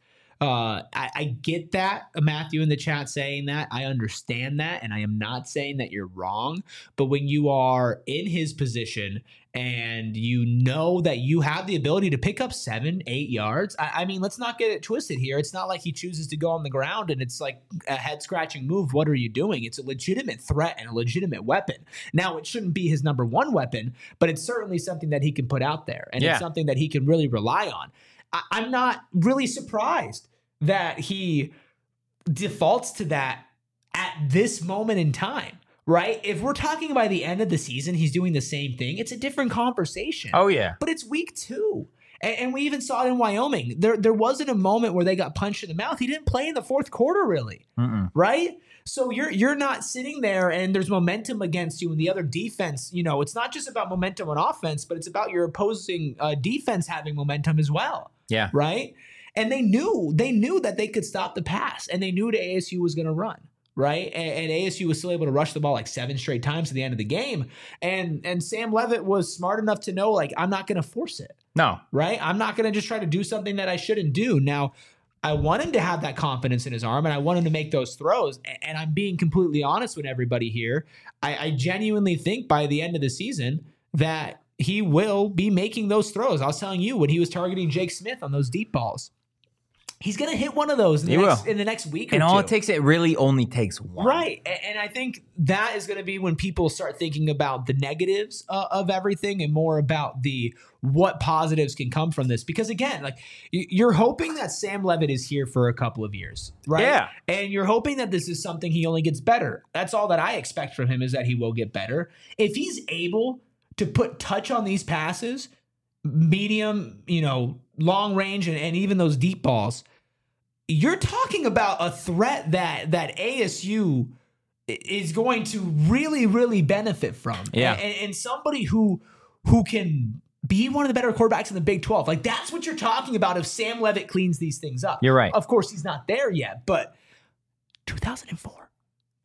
I get that, Matthew in the chat saying that. I understand that, and I am not saying that you're wrong. But when you are in his position and you know that you have the ability to pick up 7-8 yards, I mean, let's not get it twisted here. It's not like he chooses to go on the ground and it's like a head-scratching move. What are you doing? It's a legitimate threat and a legitimate weapon. Now, it shouldn't be his number 1 weapon, but it's certainly something that he can put out there, and it's something that he can really rely on. I'm not really surprised that he defaults to that at this moment in time, right? If we're talking by the end of the season, he's doing the same thing. It's a different conversation. Oh, yeah. But it's week 2. And we even saw it in Wyoming. There wasn't a moment where they got punched in the mouth. He didn't play in the fourth quarter, really, right? So you're not sitting there and there's momentum against you and the other defense. It's not just about momentum on offense, but it's about your opposing defense having momentum as well. Yeah. Right. And they knew that they could stop the pass, and they knew that ASU was going to run. Right. And ASU was still able to rush the ball like 7 straight times at the end of the game. And Sam Levitt was smart enough to know, like, I'm not going to force it. No. Right. I'm not going to just try to do something that I shouldn't do. Now, I want him to have that confidence in his arm, and I want him to make those throws. And I'm being completely honest with everybody here. I genuinely think by the end of the season that he will be making those throws. I was telling you when he was targeting Jake Smith on those deep balls. He's going to hit one of those in the next week or two. And all it really only takes one. Right. And I think that is going to be when people start thinking about the negatives of everything and more about what positives can come from this. Because again, like, you're hoping that Sam Levitt is here for a couple of years, right? Yeah. And you're hoping that this is something he only gets better. That's all that I expect from him, is that he will get better. If he's able to put touch on these passes, medium, long range, and even those deep balls, you're talking about a threat that ASU is going to really, really benefit from. Yeah. And somebody who can be one of the better quarterbacks in the Big 12. Like, that's what you're talking about if Sam Levitt cleans these things up. You're right. Of course, he's not there yet, but 2004.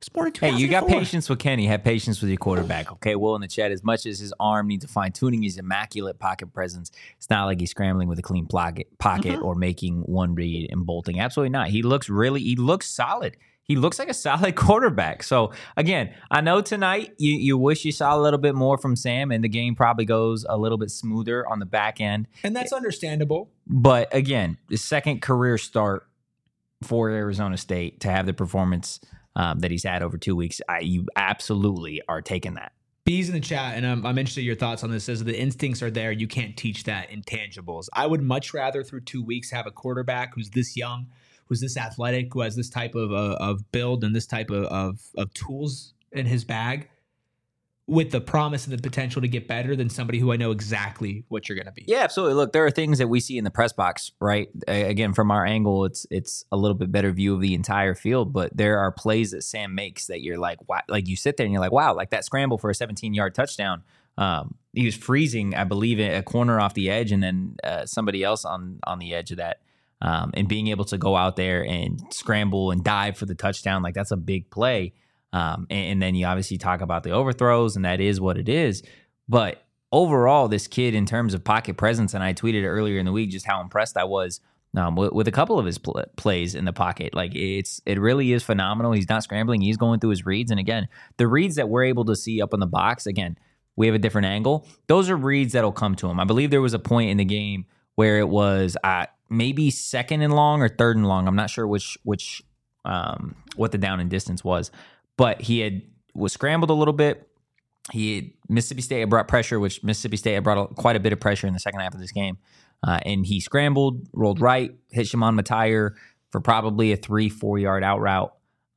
It's more than Hey, you got 2004. patience with Kenny. Have patience with your quarterback, okay? Will in the chat, as much as his arm needs fine tuning, his immaculate pocket presence, it's not like he's scrambling with a clean pocket or making one read and bolting. Absolutely not. He looks solid. He looks like a solid quarterback. So, again, I know tonight you wish you saw a little bit more from Sam, and the game probably goes a little bit smoother on the back end. And that's understandable. But, again, the second career start for Arizona State to have the performance that he's had over 2 weeks, you absolutely are taking that. B's in the chat, and I'm interested in your thoughts on this, says the instincts are there. You can't teach that intangibles. I would much rather through 2 weeks have a quarterback who's this young, who's this athletic, who has this type of build and this type of tools in his bag with the promise and the potential to get better than somebody who I know exactly what you're going to be. Yeah, absolutely. Look, there are things that we see in the press box, right? Again, from our angle, it's a little bit better view of the entire field, but there are plays that Sam makes that you're like, wow, like you sit there and you're like, wow, like that scramble for a 17-yard touchdown. He was freezing, I believe, a corner off the edge and then somebody else on the edge of that. And being able to go out there and scramble and dive for the touchdown, like that's a big play. And then you obviously talk about the overthrows, and that is what it is. But overall, this kid, in terms of pocket presence, and I tweeted earlier in the week just how impressed I was with a couple of his plays in the pocket. Like it really is phenomenal. He's not scrambling; he's going through his reads. And again, the reads that we're able to see up in the box, again, we have a different angle. Those are reads that'll come to him. I believe there was a point in the game where it was maybe second and long or third and long. I'm not sure which what the down and distance was. But he was scrambled a little bit. Mississippi State had brought pressure, which Mississippi State had brought quite a bit of pressure in the second half of this game. And he scrambled, rolled right, hit Shimon Matire for probably a 3-4 yard out route.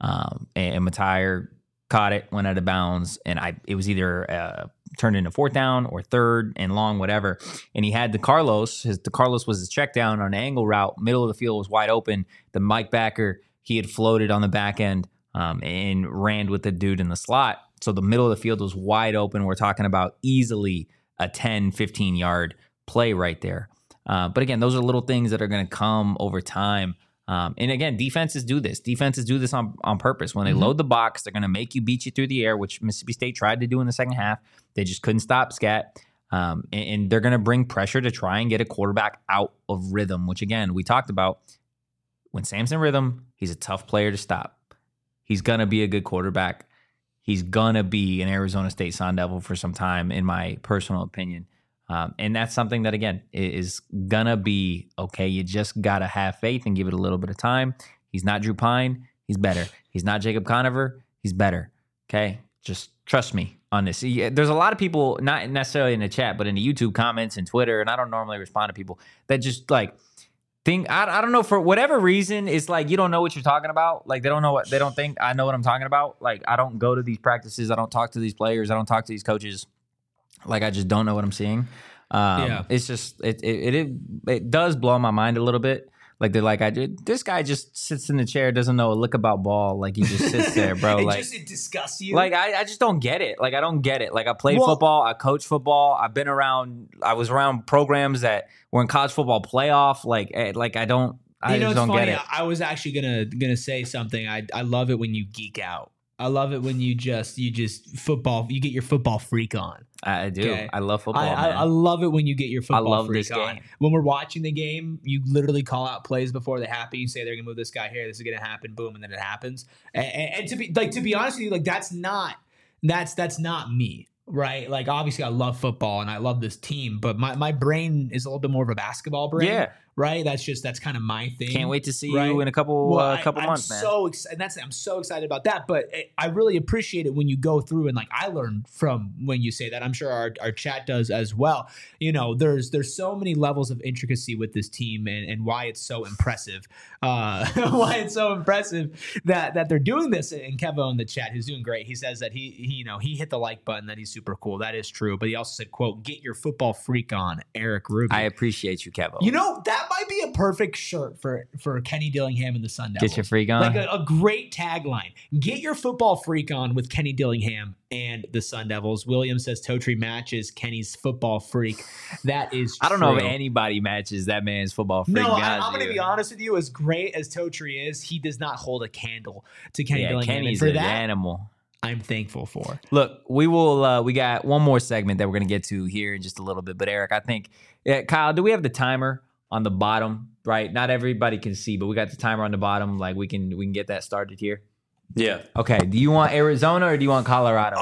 And Matire caught it, went out of bounds, and it was either turned into fourth down or third and long, whatever. And he had the Carlos was his check down on an angle route. Middle of the field was wide open. The Mike Backer, he had floated on the back end. And ran with the dude in the slot. So the middle of the field was wide open. We're talking about easily a 10, 15-yard play right there. But again, those are little things that are going to come over time. And again, defenses do this. Defenses do this on purpose. When they load the box, they're going to make you beat you through the air, which Mississippi State tried to do in the second half. They just couldn't stop Scat. And they're going to bring pressure to try and get a quarterback out of rhythm, which again, we talked about. When Sam's in rhythm, he's a tough player to stop. He's going to be a good quarterback. He's going to be an Arizona State Sun Devil for some time, in my personal opinion. And that's something that, again, is going to be okay. You just got to have faith and give it a little bit of time. He's not Drew Pine. He's better. He's not Jacob Conover. He's better. Okay? Just trust me on this. There's a lot of people, not necessarily in the chat, but in the YouTube comments and Twitter, and I don't normally respond to people, that just like, I don't know, for whatever reason, it's like you don't know what you're talking about. Like they don't think I know what I'm talking about. Like I don't go to these practices. I don't talk to these players. I don't talk to these coaches. Like I just don't know what I'm seeing. It's just it does blow my mind a little bit. Like they're like, this guy just sits in the chair, doesn't know a lick about ball. Like he just sits there, bro. It disgusts you. Like I just don't get it. Like I don't get it. Like I played football, I coached football, I was around programs that were in college football playoff. Like I just don't get it. I was actually gonna say something. I love it when you geek out. I love it when you just football. You get your football freak on. I do. Okay. I love football. I love it when you get your football freak on. When we're watching the game, you literally call out plays before they happen. You say they're gonna move this guy here. This is gonna happen. Boom, and then it happens. And to be honest with you, like that's not me. Right. Like obviously I love football and I love this team, but my brain is a little bit more of a basketball brain. Yeah. Right. That's kind of my thing. Can't wait to see you in a couple months, man. I'm so excited about that. But I really appreciate it when you go through and like I learn from when you say that. I'm sure our chat does as well. You know, there's so many levels of intricacy with this team and why it's so impressive. Why it's so impressive that they're doing this. And Kevo in the chat, who's doing great, he says that he hit the like button, that he's super cool. That is true. But he also said, quote, "Get your football freak on," Eric Rubin. I appreciate you, Kevo. You know, that might be a perfect shirt for Kenny Dillingham and the Sun Devils. Get your freak on. Like a great tagline. Get your football freak on with Kenny Dillingham and the Sun Devils. William says Totri matches Kenny's football freak. That is true. I don't know if anybody matches that man's football freak. No, I'm going to be honest with you. As great as Totri is, he does not hold a candle to Kenny Dillingham. Kenny's and for an that, animal. I'm thankful for. Look, we will. We got one more segment that we're going to get to here in just a little bit. But Eric, I think, Kyle, do we have the timer on the bottom? Right, not everybody can see, but we got the timer on the bottom. Like we can get that started here. Yeah. Okay. Do you want Arizona or do you want Colorado?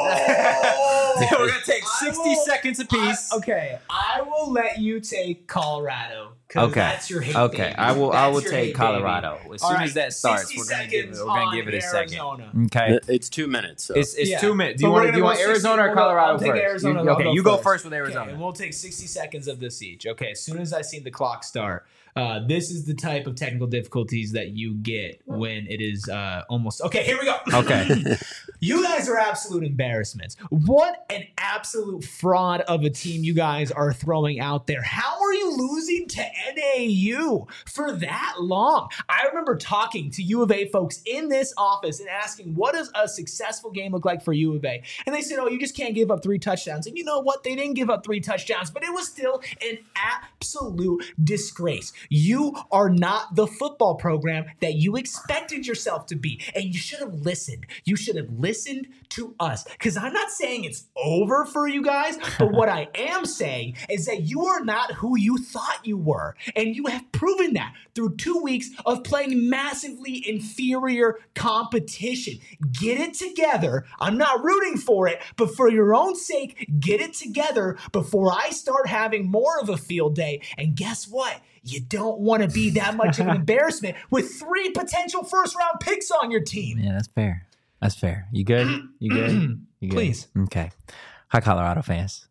We're gonna take 60 seconds apiece. I will let you take Colorado. Okay, that's your hate. Okay, baby. I will That's take hate, Colorado baby. as soon as that starts. We're gonna give it a second. Okay, It's 2 minutes. So. it's 2 minutes. Do you want Arizona or Colorado first? Arizona. You go first with Arizona. Okay, and we'll take 60 seconds of this each. Okay, as soon as I see the clock start. This is the type of technical difficulties that you get when it is almost... Okay, here we go. Okay. You guys are absolute embarrassments. What an absolute fraud of a team you guys are throwing out there. How are you losing to NAU for that long? I remember talking to U of A folks in this office and asking, what does a successful game look like for U of A? And they said, you just can't give up 3 touchdowns. And you know what? They didn't give up 3 touchdowns, but it was still an absolute disgrace. You are not the football program that you expected yourself to be. And you should have listened. You should have listened to us. Because I'm not saying it's over for you guys, but what I am saying is that you are not who you thought you were. And you have proven that through 2 weeks of playing massively inferior competition. Get it together. I'm not rooting for it, but for your own sake, get it together before I start having more of a field day. And guess what? You don't want to be that much of an embarrassment with 3 potential first-round picks on your team. Yeah, that's fair. That's fair. You good? You good? You good? Please. Okay. Hi, Colorado fans.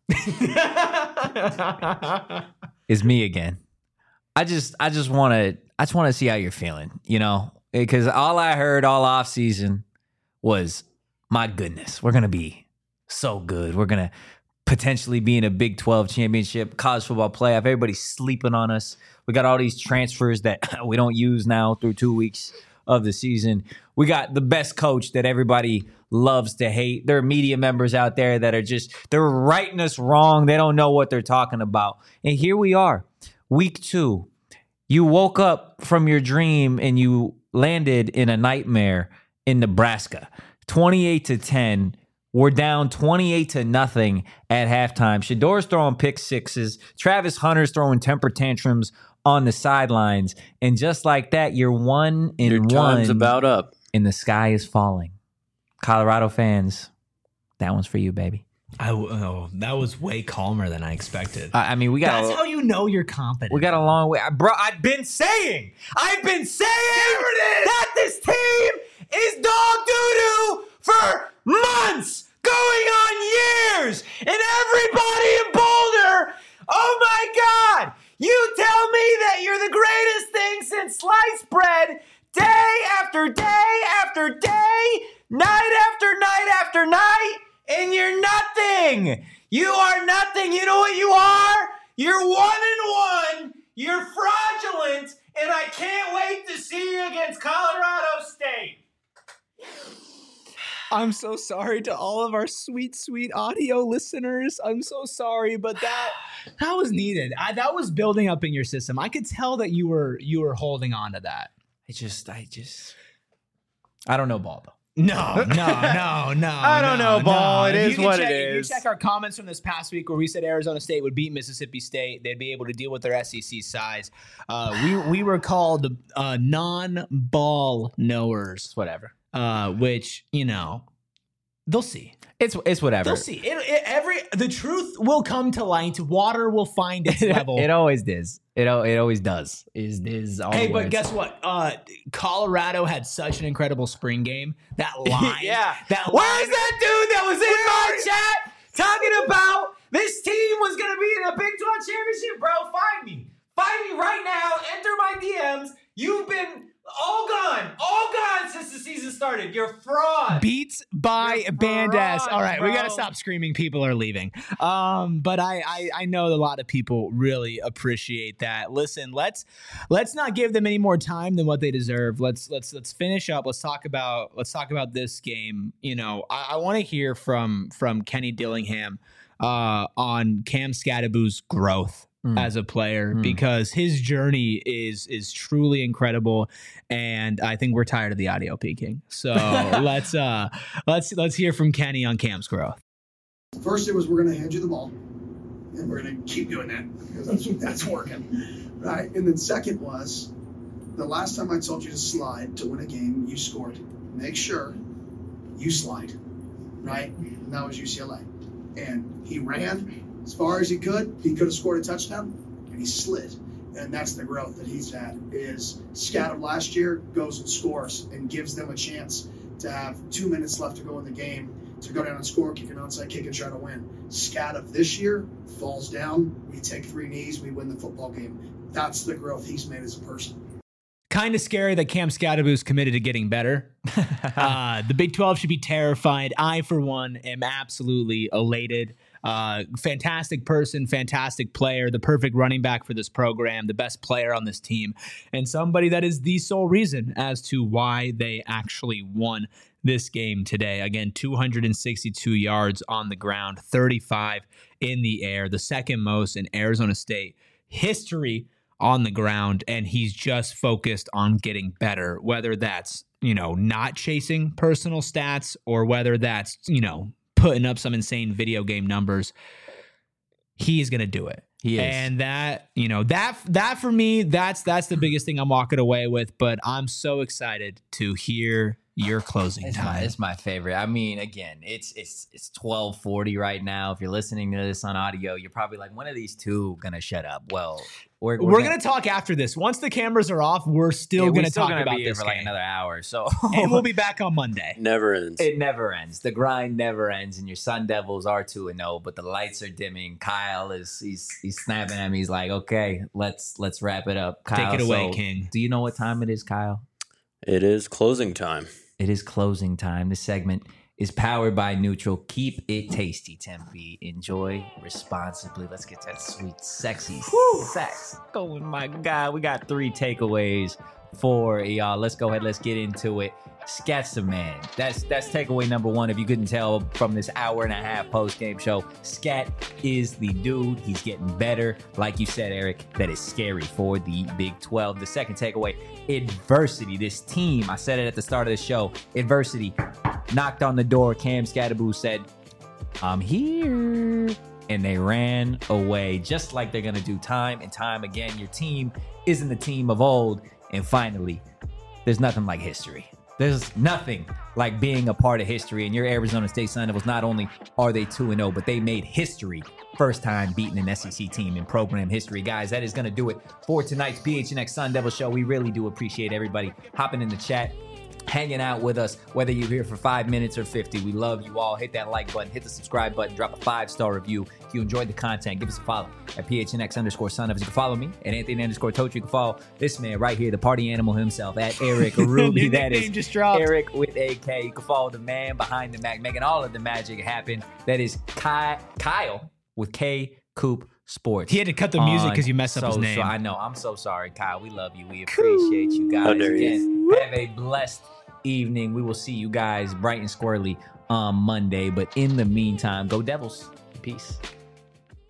It's me again. I just want to see how you're feeling, because all I heard all off season was, my goodness, we're going to be so good. We're going to potentially be in a Big 12 championship, college football playoff. Everybody's sleeping on us. We got all these transfers that we don't use now through 2 weeks of the season. We got the best coach that everybody loves to hate. There are media members out there that are they're writing us wrong. They don't know what they're talking about. And here we are, week 2. You woke up from your dream and you landed in a nightmare in Nebraska. 28-10. We're down 28-0 at halftime. Shedor's throwing pick sixes. Travis Hunter's throwing temper tantrums on the sidelines. And just like that, you're 1-1. Your time's about up. And the sky is falling. Colorado fans, that one's for you, baby. That was way calmer than I expected. I mean, that's how you know you're confident. We got a long way. Bro, I've been saying that this team is dog doo-doo for months, going on years, and everybody in Boulder, oh my God, you tell me that you're the greatest thing since sliced bread, day after day after day, night after night after night, and you're nothing. You are nothing. You know what you are? You're 1-1. You're fraudulent, and I can't wait to see you against Colorado State. I'm so sorry to all of our sweet, sweet audio listeners. I'm so sorry, but that was needed. That was building up in your system. I could tell that you were holding on to that. I don't know ball though. No. I don't know ball. It is what it is. You check our comments from this past week where we said Arizona State would beat Mississippi State. They'd be able to deal with their SEC size. We were called non-ball knowers. Whatever. Which, they'll see. It's whatever. They'll see. The truth will come to light. Water will find its level. It always does. It always does. Is all hey, the but words. guess what? Colorado had such an incredible spring game. That line. Yeah. Where's that dude that was in my chat talking about this team was going to be in a Big 12 championship? Bro, find me. Find me right now. Enter my DMs. You've been all gone since the season started. started. You're fraud. Beats by You're Bandes. fraud, All right, we got to bro. stop screaming. People are leaving. But I know a lot of people really appreciate that. Listen, let's not give them any more time than what they deserve. Let's finish up. Let's talk about this game. You know, I want to hear from Kenny Dillingham on Cam Scadaboo's growth as a player, because his journey is truly incredible, and I think we're tired of the audio peaking. So let's hear from Kenny on Cam's growth. First, it was we're going to hand you the ball, and we're going to keep doing that because that's working, right? And then second was the last time I told you to slide to win a game, you scored. Make sure you slide, right? And that was UCLA, and he ran as far as he could. He could have scored a touchdown, and he slid. And that's the growth that he's had. Is Scat of last year goes and scores and gives them a chance to have 2 minutes left to go in the game, to go down and score, kick an onside kick, and try to win. Scat of this year falls down. We take 3 knees. We win the football game. That's the growth he's made as a person. Kind of scary that Cam Scadaboo's committed to getting better. The Big 12 should be terrified. I, for one, am absolutely elated. Fantastic person, fantastic player, the perfect running back for this program, the best player on this team, and somebody that is the sole reason as to why they actually won this game today. Again, 262 yards on the ground, 35 in the air, the second most in Arizona State history on the ground, and he's just focused on getting better, whether that's, not chasing personal stats or whether that's, putting up some insane video game numbers. He is going to do it. He is. And that, that for me, that's the biggest thing I'm walking away with, but I'm so excited to hear your closing time. It's my favorite. I mean, again, it's 12:40 right now. If you're listening to this on audio, you're probably like, when are these two gonna shut up? Well, we're gonna talk after this. Once the cameras are off, we're still gonna talk about be here this for like game. another hour. So And we'll be back on Monday. Never ends. It never ends. The grind never ends, and your Sun Devils are 2-0, but the lights are dimming. Kyle he's snapping at me. He's like, okay, let's wrap it up. Kyle, Take it away, so King. Do you know what time it is, Kyle? It is closing time. It is closing time. This segment is powered by Neutral. Keep it tasty, Tempe. Enjoy responsibly. Let's get that sweet, sexy sex going. My God, we got 3 takeaways for y'all. Let's go ahead. Let's get into it. Scat's the man. That's takeaway number 1. If you couldn't tell from this hour and a half post-game show, Scat is the dude. He's getting better. Like you said, Eric, that is scary for the Big 12. The second takeaway, adversity. This team, I said it at the start of the show, adversity knocked on the door. Cam Scadaboo said, I'm here. And they ran away, just like they're going to do time and time again. Your team isn't the team of old. And finally, there's nothing like history. There's nothing like being a part of history, and your Arizona State Sun Devils, not only are they 2-0, but they made history. First time beating an SEC team in program history. Guys, that is going to do it for tonight's PHNX Sun Devil Show. We really do appreciate everybody hopping in the chat, hanging out with us, whether you're here for 5 minutes or 50. We love you all. Hit that like button, hit the subscribe button, drop a 5-star review. If you enjoyed the content, give us a follow at PHNX_Sun Devils. You can follow me at Anthony_Toach. You can follow this man right here, the party animal himself, at Eric Ruby. That is just dropped. Eric with AK. You can follow the man behind the Mac, making all of the magic happen. That is Kyle with K Coop Sports. He had to cut the music because you messed up his name. I know. I'm so sorry, Kyle. We love you. We appreciate you guys. How dare Again, have a blessed evening. We will see you guys bright and squirrely on Monday. But in the meantime, go Devils. Peace.